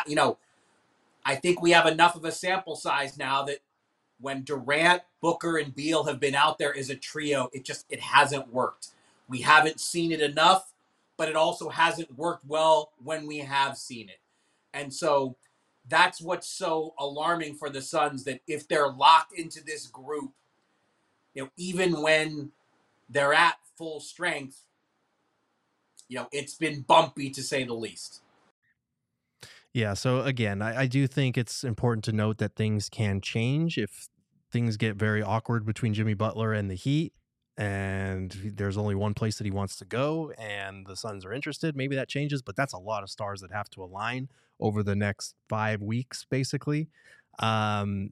I think we have enough of a sample size now that when Durant, Booker, and Beal have been out there as a trio, it hasn't worked. We haven't seen it enough, but it also hasn't worked well when we have seen it. And so that's what's so alarming for the Suns, that if they're locked into this group, even when they're at full strength, it's been bumpy to say the least. Yeah, so again, I do think it's important to note that things can change if things get very awkward between Jimmy Butler and the Heat, and there's only one place that he wants to go, and the Suns are interested. Maybe that changes, but that's a lot of stars that have to align over the next 5 weeks, basically. I've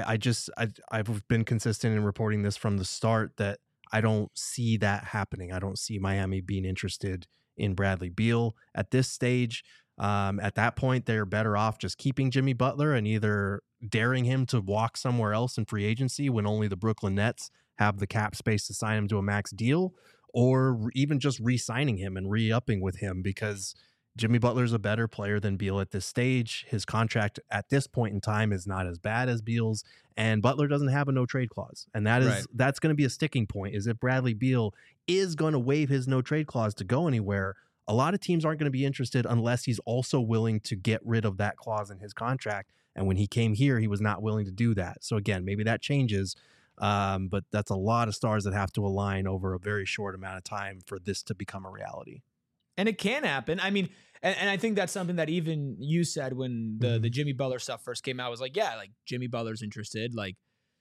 been consistent in reporting this from the start that I don't see that happening. I don't see Miami being interested in Bradley Beal at this stage. At that point, they're better off just keeping Jimmy Butler and either daring him to walk somewhere else in free agency when only the Brooklyn Nets have the cap space to sign him to a max deal, or even just re-signing him and re-upping with him, because Jimmy Butler's a better player than Beal at this stage. His contract at this point in time is not as bad as Beal's, and Butler doesn't have a no trade clause. And that's going to be a sticking point, is if Bradley Beal is going to waive his no trade clause to go anywhere. A lot of teams aren't going to be interested unless he's also willing to get rid of that clause in his contract. And when he came here, he was not willing to do that. So again, maybe that changes. But that's a lot of stars that have to align over a very short amount of time for this to become a reality. And it can happen. I mean, and I think that's something that even you said when the Jimmy Butler stuff first came out, was like, yeah, like Jimmy Butler's interested. Like,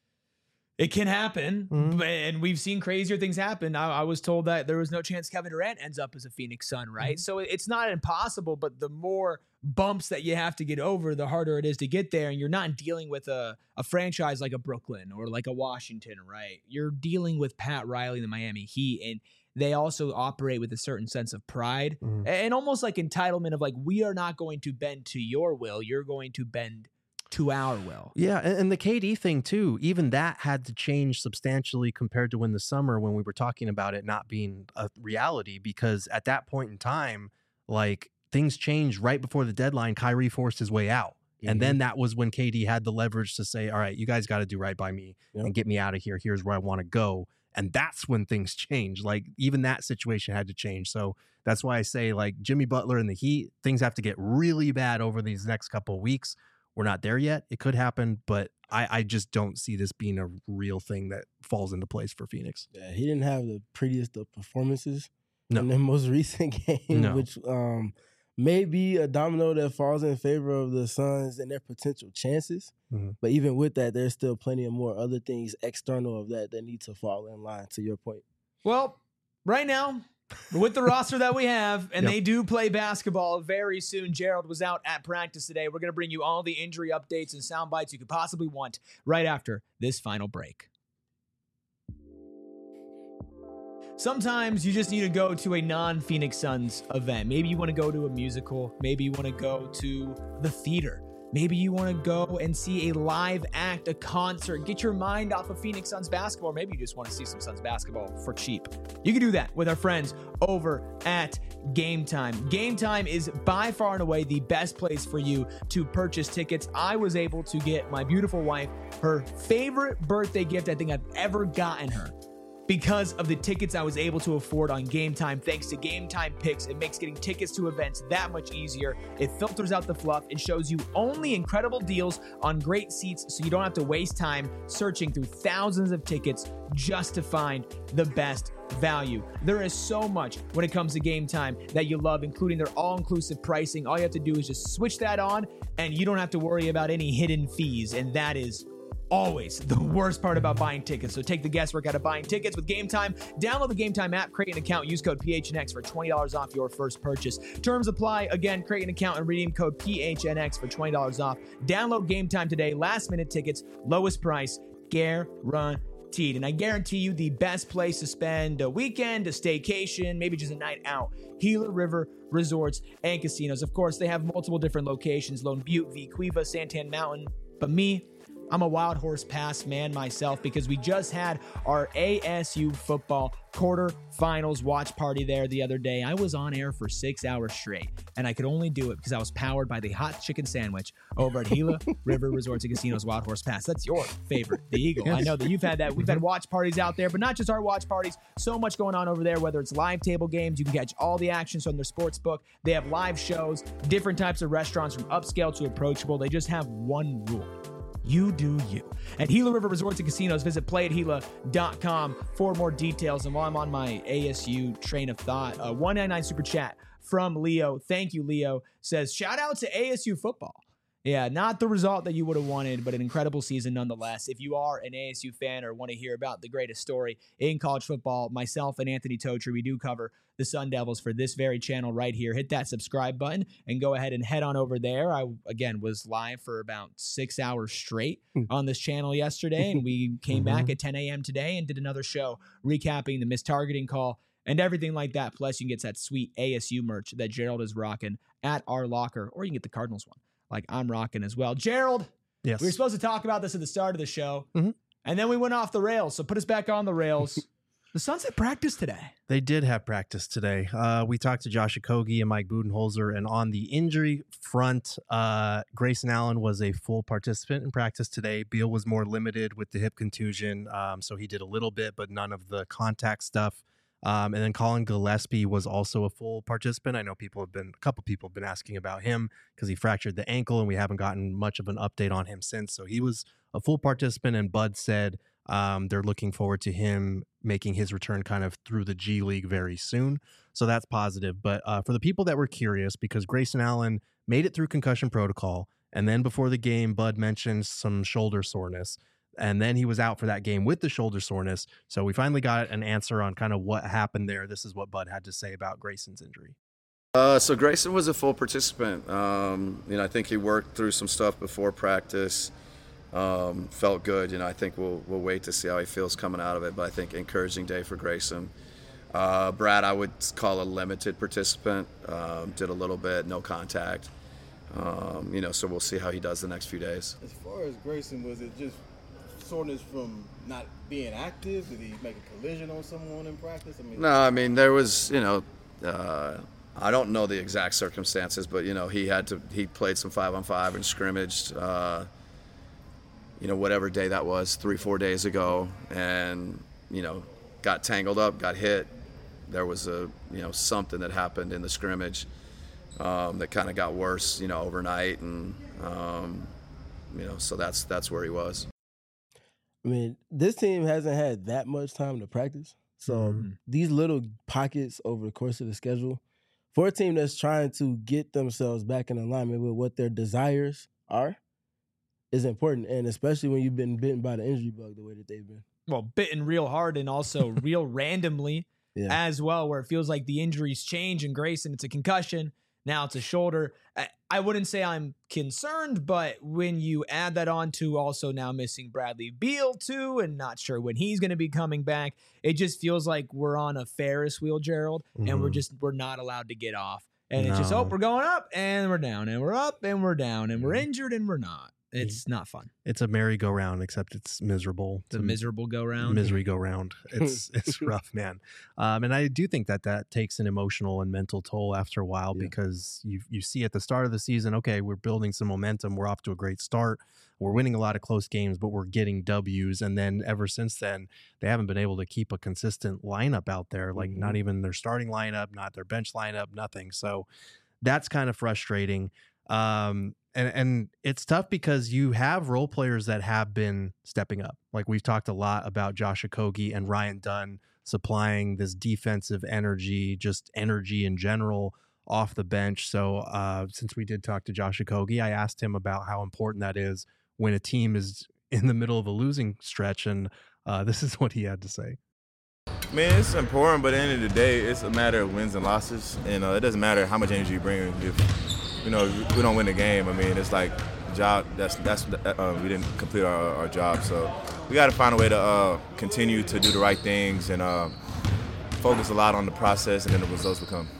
it can happen, and we've seen crazier things happen. I was told that there was no chance Kevin Durant ends up as a Phoenix Sun, right? So it's not impossible, but the more bumps that you have to get over, the harder it is to get there. And you're not dealing with a franchise like a Brooklyn or like a Washington, right? You're dealing with Pat Riley and the Miami Heat, and they also operate with a certain sense of pride and almost like entitlement of like, we are not going to bend to your will. You're going to bend to our will. Yeah, and the KD thing too, even that had to change substantially compared to when we were talking about it not being a reality, because at that point in time, like, things changed right before the deadline. Kyrie forced his way out. And then that was when KD had the leverage to say, all right, you guys got to do right by me and get me out of here. Here's where I want to go. And that's when things change. Like, even that situation had to change. So that's why I say, like, Jimmy Butler and the Heat, things have to get really bad over these next couple of weeks. We're not there yet. It could happen, but I just don't see this being a real thing that falls into place for Phoenix. Yeah, he didn't have the prettiest of performances in the most recent game, which may be a domino that falls in favor of the Suns and their potential chances. But even with that, there's still plenty of more other things external of that need to fall in line, to your point. Well, right now, With the roster that we have, and Yep. they do play basketball very soon. Gerald was out at practice today. We're going to bring you all the injury updates and sound bites you could possibly want right after this final break. Sometimes you just need to go to a non-Phoenix Suns event. Maybe you want to go to a musical. Maybe you want to go to the theater. Maybe you want to go and see a live act, a concert, get your mind off of Phoenix Suns basketball, or maybe you just want to see some Suns basketball for cheap. You can do that with our friends over at Game Time. Game Time is by far and away the best place for you to purchase tickets. I was able to get my beautiful wife her favorite birthday gift I think I've ever gotten her, because of the tickets I was able to afford on Game Time. Thanks to Game Time Picks, it makes getting tickets to events that much easier. It filters out the fluff and shows you only incredible deals on great seats, so you don't have to waste time searching through thousands of tickets just to find the best value. There is so much when it comes to Game Time that you love, including their all-inclusive pricing. All you have to do is just switch that on, and you don't have to worry about any hidden fees, and that is always the worst part about buying tickets. So take the guesswork out of buying tickets with Game Time. Download the Game Time app, create an account, use code PHNX for $20 off your first purchase. Terms apply. Again, create an account and redeem code PHNX for $20 off. Download Game Time today. Last minute tickets, lowest price, guaranteed. And I guarantee you the best place to spend a weekend, a staycation, maybe just a night out. Gila River Resorts and Casinos. Of course, they have multiple different locations: Lone Butte, Vicuiva, Santan Mountain. But me, I'm a Wild Horse Pass man myself, because we just had our ASU football quarterfinals watch party there the other day. I was on air for 6 hours straight, and I could only do it because I was powered by the hot chicken sandwich over at Gila River Resorts and Casinos Wild Horse Pass. That's your favorite, the Eagle. I know that you've had that. We've had watch parties out there, but not just our watch parties. So much going on over there, whether it's live table games. You can catch all the actions from their sports book. They have live shows, different types of restaurants from upscale to approachable. They just have one rule: you do you. At Gila River Resorts and Casinos, visit playatgila.com for more details. And while I'm on my ASU train of thought, 199 Super Chat from Leo. Thank you, Leo. Says, shout out to ASU football. Yeah, not the result that you would have wanted, but an incredible season nonetheless. If you are an ASU fan or want to hear about the greatest story in college football, myself and Anthony Totri, we do cover the Sun Devils for this very channel right here. Hit that subscribe button and go ahead and head on over there. I, again, was live for about 6 hours straight on this channel yesterday, and we came back at 10 a.m. today and did another show recapping the mistargeting call and everything like that. Plus, you can get that sweet ASU merch that Gerald is rocking at our locker, or you can get the Cardinals one like I'm rocking as well. Gerald, Yes. we were supposed to talk about this at the start of the show, and then we went off the rails. So put us back on the rails. The Suns had practice today. They did have practice today. We talked to Josh Okogie and Mike Budenholzer, and on the injury front, Grayson Allen was a full participant in practice today. Beal was more limited with the hip contusion, so he did a little bit, but none of the contact stuff. And then Colin Gillespie was also a full participant. I know a couple people have been asking about him because he fractured the ankle, and we haven't gotten much of an update on him since. So he was a full participant, and Bud said they're looking forward to him making his return kind of through the G League very soon. So that's positive. But for the people that were curious, because Grayson Allen made it through concussion protocol, and then before the game, Bud mentioned some shoulder soreness. And then he was out for that game with the shoulder soreness. So we finally got an answer on kind of what happened there. This is what Bud had to say about Grayson's injury. So Grayson was a full participant. I think he worked through some stuff before practice. Felt good. I think we'll wait to see how he feels coming out of it. But I think encouraging day for Grayson. Brad, I would call a limited participant. Did a little bit, no contact. So we'll see how he does the next few days. As far as Grayson, was it just soreness from not being active? Did he make a collision on someone in practice? There was, I don't know the exact circumstances, but he played some 5-on-5 and scrimmaged, whatever day that was, 3-4 days ago, and got tangled up, got hit. There was something that happened in the scrimmage that kind of got worse, overnight, and so that's where he was. This team hasn't had that much time to practice. So these little pockets over the course of the schedule, for a team that's trying to get themselves back in alignment with what their desires are, is important. And especially when you've been bitten by the injury bug the way that they've been. Well, bitten real hard and also real randomly. as well, where it feels like the injuries change. And Grayson, it's a concussion. Now it's a shoulder. I wouldn't say I'm concerned, but when you add that on to also now missing Bradley Beal too, and not sure when he's going to be coming back, it just feels like we're on a Ferris wheel, Gerald, and we're not allowed to get off. And it's just, we're going up and we're down, and we're up and we're down, and we're injured and we're not. It's not fun. It's a merry-go-round, except it's miserable. It's a miserable go-round. Misery go-round. It's rough, man. And I do think that takes an emotional and mental toll after a while, because you see at the start of the season, okay, we're building some momentum. We're off to a great start. We're winning a lot of close games, but we're getting W's. And then ever since then, they haven't been able to keep a consistent lineup out there, like not even their starting lineup, not their bench lineup, nothing. So that's kind of frustrating. And it's tough because you have role players that have been stepping up. Like we've talked a lot about Josh Okogie and Ryan Dunn supplying this defensive energy, just energy in general off the bench. So since we did talk to Josh Okogie, I asked him about how important that is when a team is in the middle of a losing stretch. And this is what he had to say. Man, it's important, but at the end of the day, it's a matter of wins and losses. And it doesn't matter how much energy you bring. If we don't win the game, I mean, it's like the job. We didn't complete our job. So we got to find a way to continue to do the right things and focus a lot on the process, and then the results will come.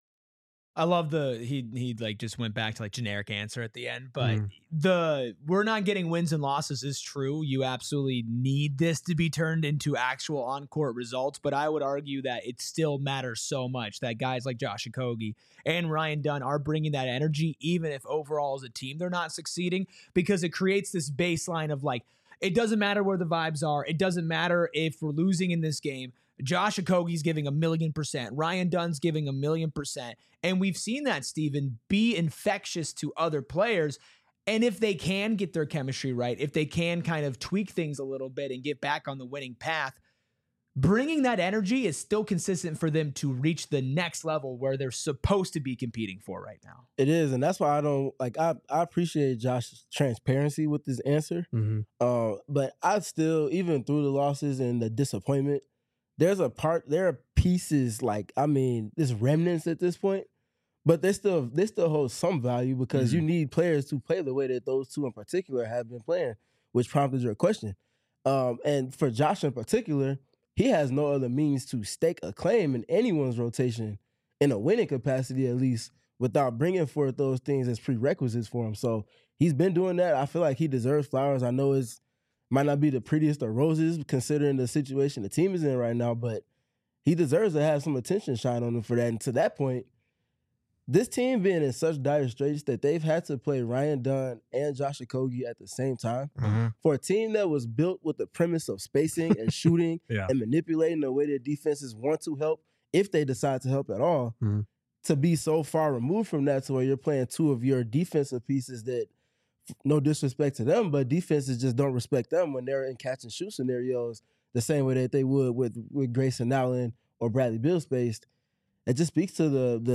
I love he like just went back to like generic answer at the end, but we're not getting wins and losses is true. You absolutely need this to be turned into actual on-court results, but I would argue that it still matters so much that guys like Josh Okogie and Ryan Dunn are bringing that energy, even if overall as a team they're not succeeding, because it creates this baseline of like, it doesn't matter where the vibes are. It doesn't matter if we're losing in this game. Josh Okogie's giving 1,000,000%. Ryan Dunn's giving 1,000,000%. And we've seen that, Steven, be infectious to other players. And if they can get their chemistry right, if they can kind of tweak things a little bit and get back on the winning path, bringing that energy is still consistent for them to reach the next level where they're supposed to be competing for right now. It is, and that's why I appreciate Josh's transparency with this answer. But I still, even through the losses and the disappointment, there are pieces like, I mean, there's remnants at this point, but they still hold some value because you need players to play the way that those two in particular have been playing, which prompted your question. And for Josh in particular, he has no other means to stake a claim in anyone's rotation in a winning capacity, at least, without bringing forth those things as prerequisites for him. So he's been doing that. I feel like he deserves flowers. I know it might not be the prettiest of roses considering the situation the team is in right now, but he deserves to have some attention shine on him for that. And to that point, this team being in such dire straits that they've had to play Ryan Dunn and Josh Okogie at the same time for a team that was built with the premise of spacing and shooting and manipulating the way their defenses want to help, if they decide to help at all, to be so far removed from that to where you're playing two of your defensive pieces that, no disrespect to them, but defenses just don't respect them when they're in catch and shoot scenarios the same way that they would with Grayson Allen or Bradley Beal spaced. It just speaks to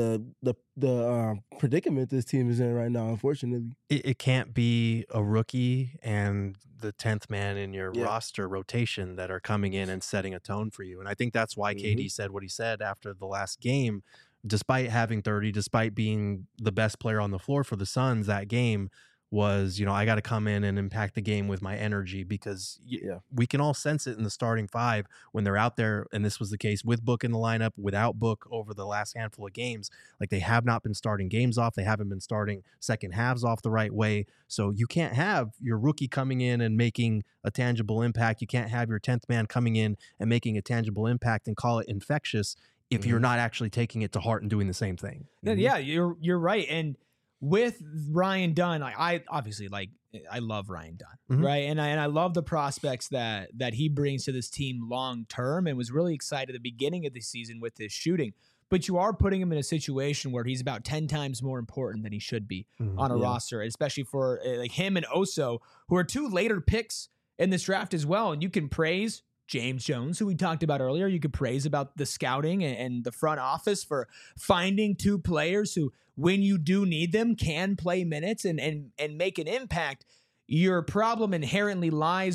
the predicament this team is in right now, unfortunately. It can't be a rookie and the 10th man in your roster rotation that are coming in and setting a tone for you. And I think that's why KD said what he said after the last game. Despite having 30, despite being the best player on the floor for the Suns that game, was, I got to come in and impact the game with my energy, because we can all sense it in the starting five when they're out there. And this was the case with Book in the lineup, without Book over the last handful of games. Like, they have not been starting games off. They haven't been starting second halves off the right way. So you can't have your rookie coming in and making a tangible impact. You can't have your 10th man coming in and making a tangible impact and call it infectious if you're not actually taking it to heart and doing the same thing. Yeah, you're right. And with Ryan Dunn, I obviously I love Ryan Dunn, right? And I love the prospects that he brings to this team long term, and was really excited at the beginning of the season with his shooting. But you are putting him in a situation where he's about 10 times more important than he should be on a roster, especially for like him and Oso, who are two later picks in this draft as well. And you can praise James Jones, who we talked about earlier. You could praise about the scouting and the front office for finding two players who, when you do need them, can play minutes and make an impact. Your problem inherently lies with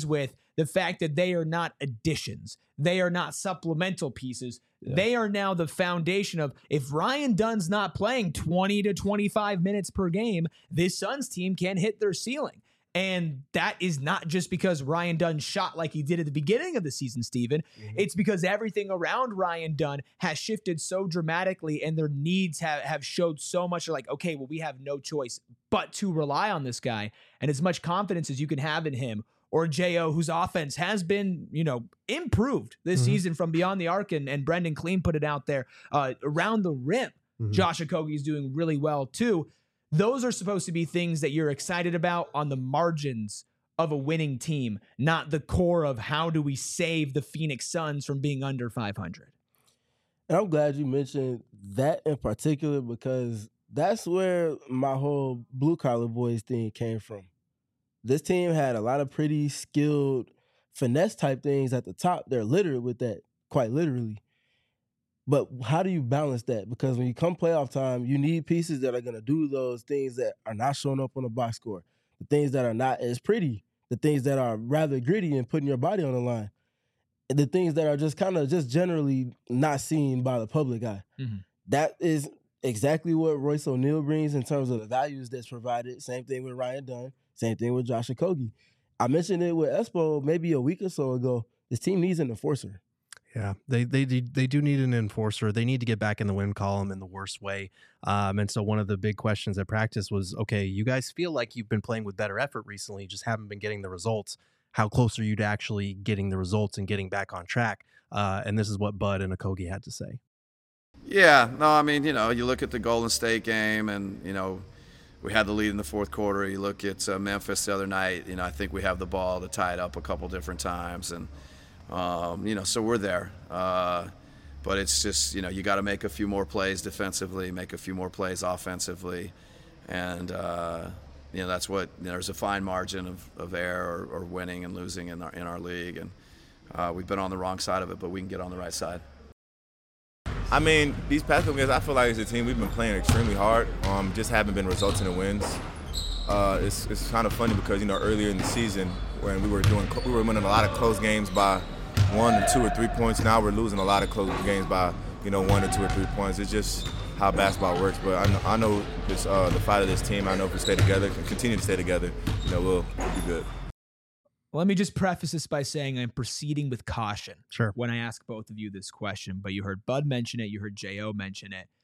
the fact that they are not additions, they are not supplemental pieces. Yeah. They are now the foundation of, if Ryan Dunn's not playing 20 to 25 minutes per game, this Suns team can hit their ceiling. And that is not just because Ryan Dunn shot like he did at the beginning of the season, Steven. Mm-hmm. It's because everything around Ryan Dunn has shifted so dramatically, and their needs have showed so much. They're like, okay, well, we have no choice but to rely on this guy. And as much confidence as you can have in him, or J.O., whose offense has been, improved this season from beyond the arc, and Brendan Clean put it out there, around the rim. Josh Okogie is doing really well too. Those are supposed to be things that you're excited about on the margins of a winning team, not the core of how do we save the Phoenix Suns from being under 500. And I'm glad you mentioned that in particular, because that's where my whole blue collar boys thing came from. This team had a lot of pretty skilled finesse type things at the top. They're littered with that, quite literally. But how do you balance that? Because when you come playoff time, you need pieces that are going to do those things that are not showing up on the box score, the things that are not as pretty, the things that are rather gritty and putting your body on the line, and the things that are just kind of just generally not seen by the public eye. Mm-hmm. That is exactly what Royce O'Neal brings in terms of the values that's provided. Same thing with Ryan Dunn. Same thing with Josh Okogie. I mentioned it with Espo maybe a week or so ago. This team needs an enforcer. Yeah, they do need an enforcer. They need to get back in the win column in the worst way. And so one of the big questions at practice was, okay, you guys feel like you've been playing with better effort recently, just haven't been getting the results. How close are you to actually getting the results and getting back on track? And this is what Bud and Okogie had to say. Yeah, no, I mean, you look at the Golden State game and, we had the lead in the fourth quarter. You look at Memphis the other night, I think we have the ball to tie it up a couple different times. And, so we're there. But it's just, you got to make a few more plays defensively, make a few more plays offensively. And, that's what, there's a fine margin of error or winning and losing in our league. And we've been on the wrong side of it, but we can get on the right side. I mean, these past couple games, I feel like as a team, we've been playing extremely hard. Just haven't been resulting in wins. It's kind of funny because, earlier in the season when we were winning a lot of close games by 1 or 2 or 3 points. Now we're losing a lot of close games by, 1 or 2 or 3 points. It's just how basketball works. But I know this, the fight of this team. I know if we stay together and continue to stay together, we'll be good. Let me just preface this by saying I'm proceeding with caution sure. when I ask both of you this question, but you heard Bud mention it, you heard J.O. mention it.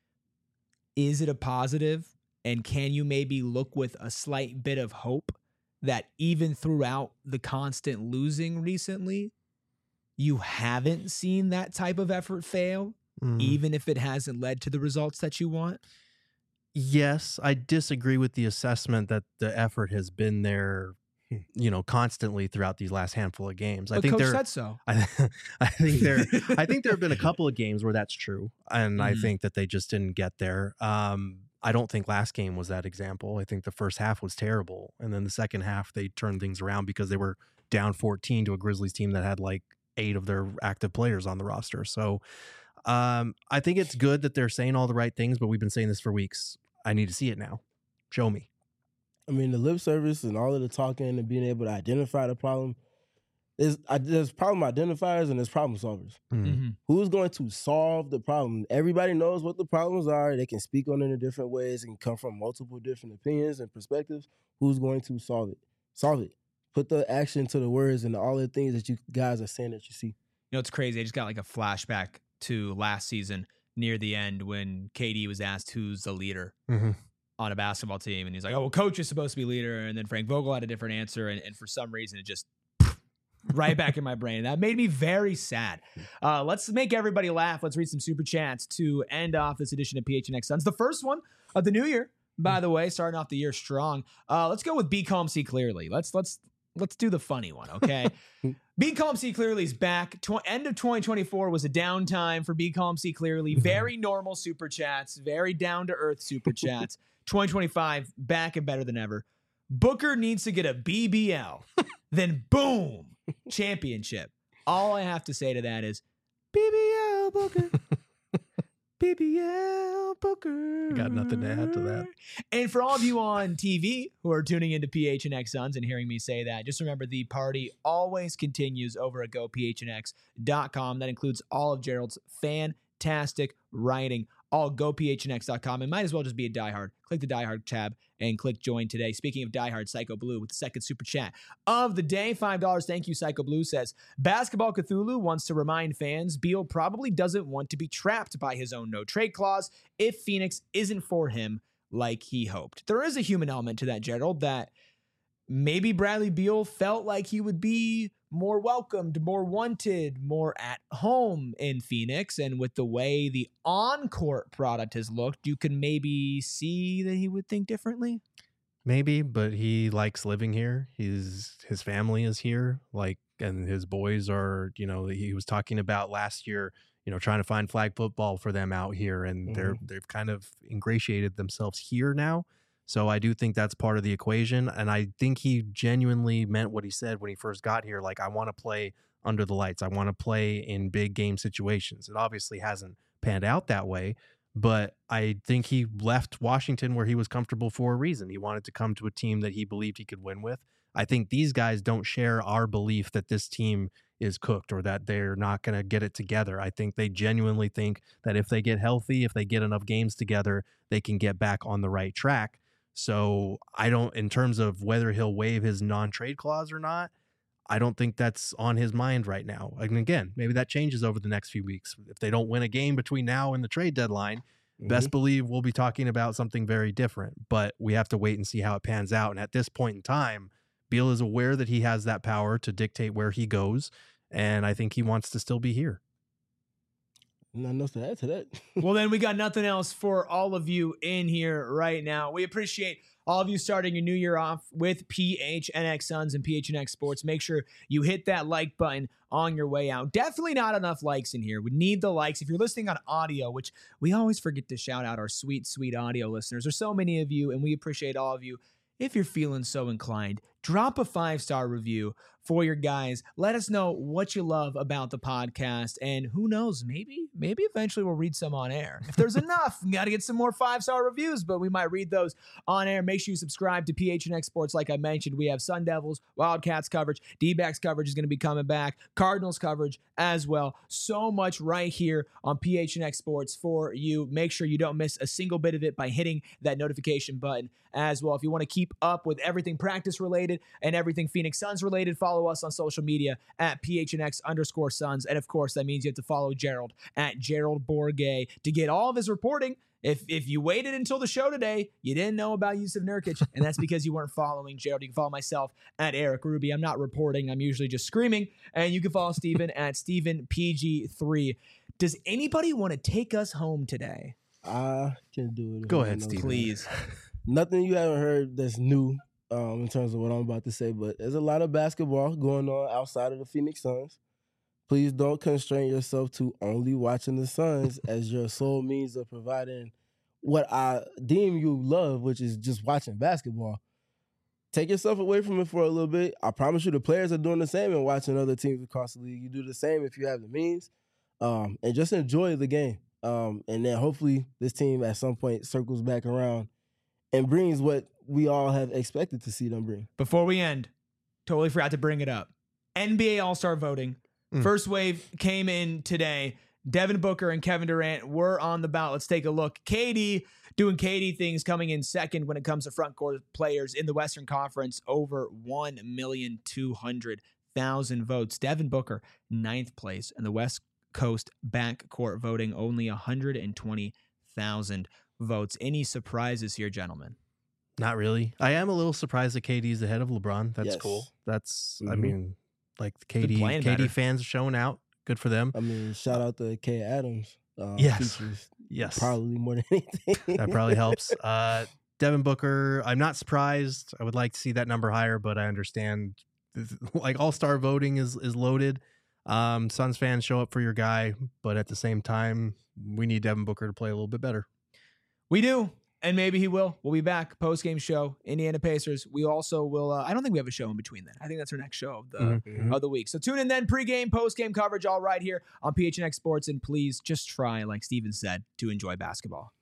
Is it a positive? And can you maybe look with a slight bit of hope that even throughout the constant losing recently, you haven't seen that type of effort fail, even if it hasn't led to the results that you want? Yes, I disagree with the assessment that the effort has been there constantly throughout these last handful of games. But Coach said so. I think there have been a couple of games where that's true, and I think that they just didn't get there. I don't think last game was that example. I think the first half was terrible, and then the second half they turned things around because they were down 14 to a Grizzlies team that had like 8 of their active players on the roster. So I think it's good that they're saying all the right things, but we've been saying this for weeks. I need to see it now. Show me. I mean, the lip service and all of the talking and being able to identify the problem, there's problem identifiers and there's problem solvers. Mm-hmm. Who's going to solve the problem? Everybody knows what the problems are. They can speak on it in different ways and come from multiple different opinions and perspectives. Who's going to solve it? Solve it. Put the action to the words and all the things that you guys are saying that you see. It's crazy. I just got like a flashback to last season near the end when KD was asked who's the leader. Mm-hmm. on a basketball team. And he's like, oh, well, coach is supposed to be leader. And then Frank Vogel had a different answer. And for some reason, it just right back in my brain. That made me very sad. Let's make everybody laugh. Let's read some super chats to end off this edition of PHNX Suns. The first one of the new year, by the way, starting off the year strong. Let's go with Be Calm, See Clearly. Let's do the funny one, okay? Be Calm, See Clearly is back. End of 2024 was a downtime for Be Calm, See Clearly. Very normal super chats, very down-to-earth super chats. 2025, back and better than ever. Booker needs to get a BBL. Then boom, championship. All I have to say to that is, BBL Booker. BBL Booker. Got nothing to add to that. And for all of you on TV who are tuning into PHNX Suns and hearing me say that, just remember the party always continues over at gophnx.com. That includes all of Gerald's fantastic writing, all gophnx.com. And might as well just be a diehard. Click the diehard tab and click join today. Speaking of diehard, Psycho Blue with the second super chat of the day, $5. Thank you, Psycho Blue says, Basketball Cthulhu wants to remind fans Beal probably doesn't want to be trapped by his own no trade clause if Phoenix isn't for him like he hoped. There is a human element to that, Gerald, that maybe Bradley Beal felt like he would be more welcomed, more wanted, more at home in Phoenix. And with the way the on-court product has looked, you can maybe see that he would think differently. Maybe, but he likes living here. His family is here, and his boys are, he was talking about last year, trying to find flag football for them out here, and they've kind of ingratiated themselves here now. So I do think that's part of the equation. And I think he genuinely meant what he said when he first got here. Like, I want to play under the lights. I want to play in big game situations. It obviously hasn't panned out that way, but I think he left Washington where he was comfortable for a reason. He wanted to come to a team that he believed he could win with. I think these guys don't share our belief that this team is cooked or that they're not going to get it together. I think they genuinely think that if they get healthy, if they get enough games together, they can get back on the right track. So in terms of whether he'll waive his non-trade clause or not, I don't think that's on his mind right now. And again, maybe that changes over the next few weeks. If they don't win a game between now and the trade deadline, best believe we'll be talking about something very different. But we have to wait and see how it pans out. And at this point in time, Beal is aware that he has that power to dictate where he goes. And I think he wants to still be here. Nothing else to add to that. Well, then we got nothing else for all of you in here right now. We appreciate all of you starting your new year off with PHNX Suns and PHNX Sports. Make sure you hit that like button on your way out. Definitely not enough likes in here. We need the likes. If you're listening on audio, which we always forget to shout out our sweet, sweet audio listeners. There's so many of you, and we appreciate all of you. If you're feeling so inclined, drop a 5-star review for your guys. Let us know what you love about the podcast. And who knows, maybe eventually we'll read some on air. If there's enough, we got to get some more 5-star reviews, but we might read those on air. Make sure you subscribe to PHNX Sports. Like I mentioned, we have Sun Devils, Wildcats coverage, D-backs coverage is going to be coming back, Cardinals coverage as well. So much right here on PHNX Sports for you. Make sure you don't miss a single bit of it by hitting that notification button as well. If you want to keep up with everything practice related and everything Phoenix Suns related, follow us on social media at PHNX_Suns. And of course, that means you have to follow Gerald at Gerald Bourguet to get all of his reporting. If you waited until the show today, you didn't know about Jusuf Nurkic, and that's because you weren't following Gerald. You can follow myself at Eric Ruby. I'm not reporting. I'm usually just screaming. And you can follow Steven at StevenPG3. Does anybody want to take us home today? I can do it. Go ahead, Steven. Please. Nothing you haven't heard that's new in terms of what I'm about to say, but there's a lot of basketball going on outside of the Phoenix Suns. Please don't constrain yourself to only watching the Suns as your sole means of providing what I deem you love, which is just watching basketball. Take yourself away from it for a little bit. I promise you the players are doing the same and watching other teams across the league. You do the same if you have the means, and just enjoy the game. And then hopefully this team at some point circles back around and brings what we all have expected to see them bring. Before we end, totally forgot to bring it up. NBA All-Star voting. First wave came in today. Devin Booker and Kevin Durant were on the ballot. Let's take a look. KD doing KD things, coming in second when it comes to front court players in the Western Conference, over 1,200,000 votes. Devin Booker, 9th place, and the West Coast backcourt voting only 120,000 votes. Any surprises here, gentlemen? Not really. I am a little surprised that KD's ahead of LeBron. That's cool. That's, I mean, like the KD fans showing out. Good for them. I mean, shout out to K. Adams. Yes. Probably more than anything. That probably helps. Devin Booker, I'm not surprised. I would like to see that number higher, but I understand like all-star voting is loaded. Suns fans, show up for your guy, but at the same time, we need Devin Booker to play a little bit better. We do. And maybe he will. We'll be back. Post-game show, Indiana Pacers. We also will, I don't think we have a show in between then. I think that's our next show of the week. So tune in then, pregame, post-game coverage all right here on PHNX Sports. And please just try, like Steven said, to enjoy basketball.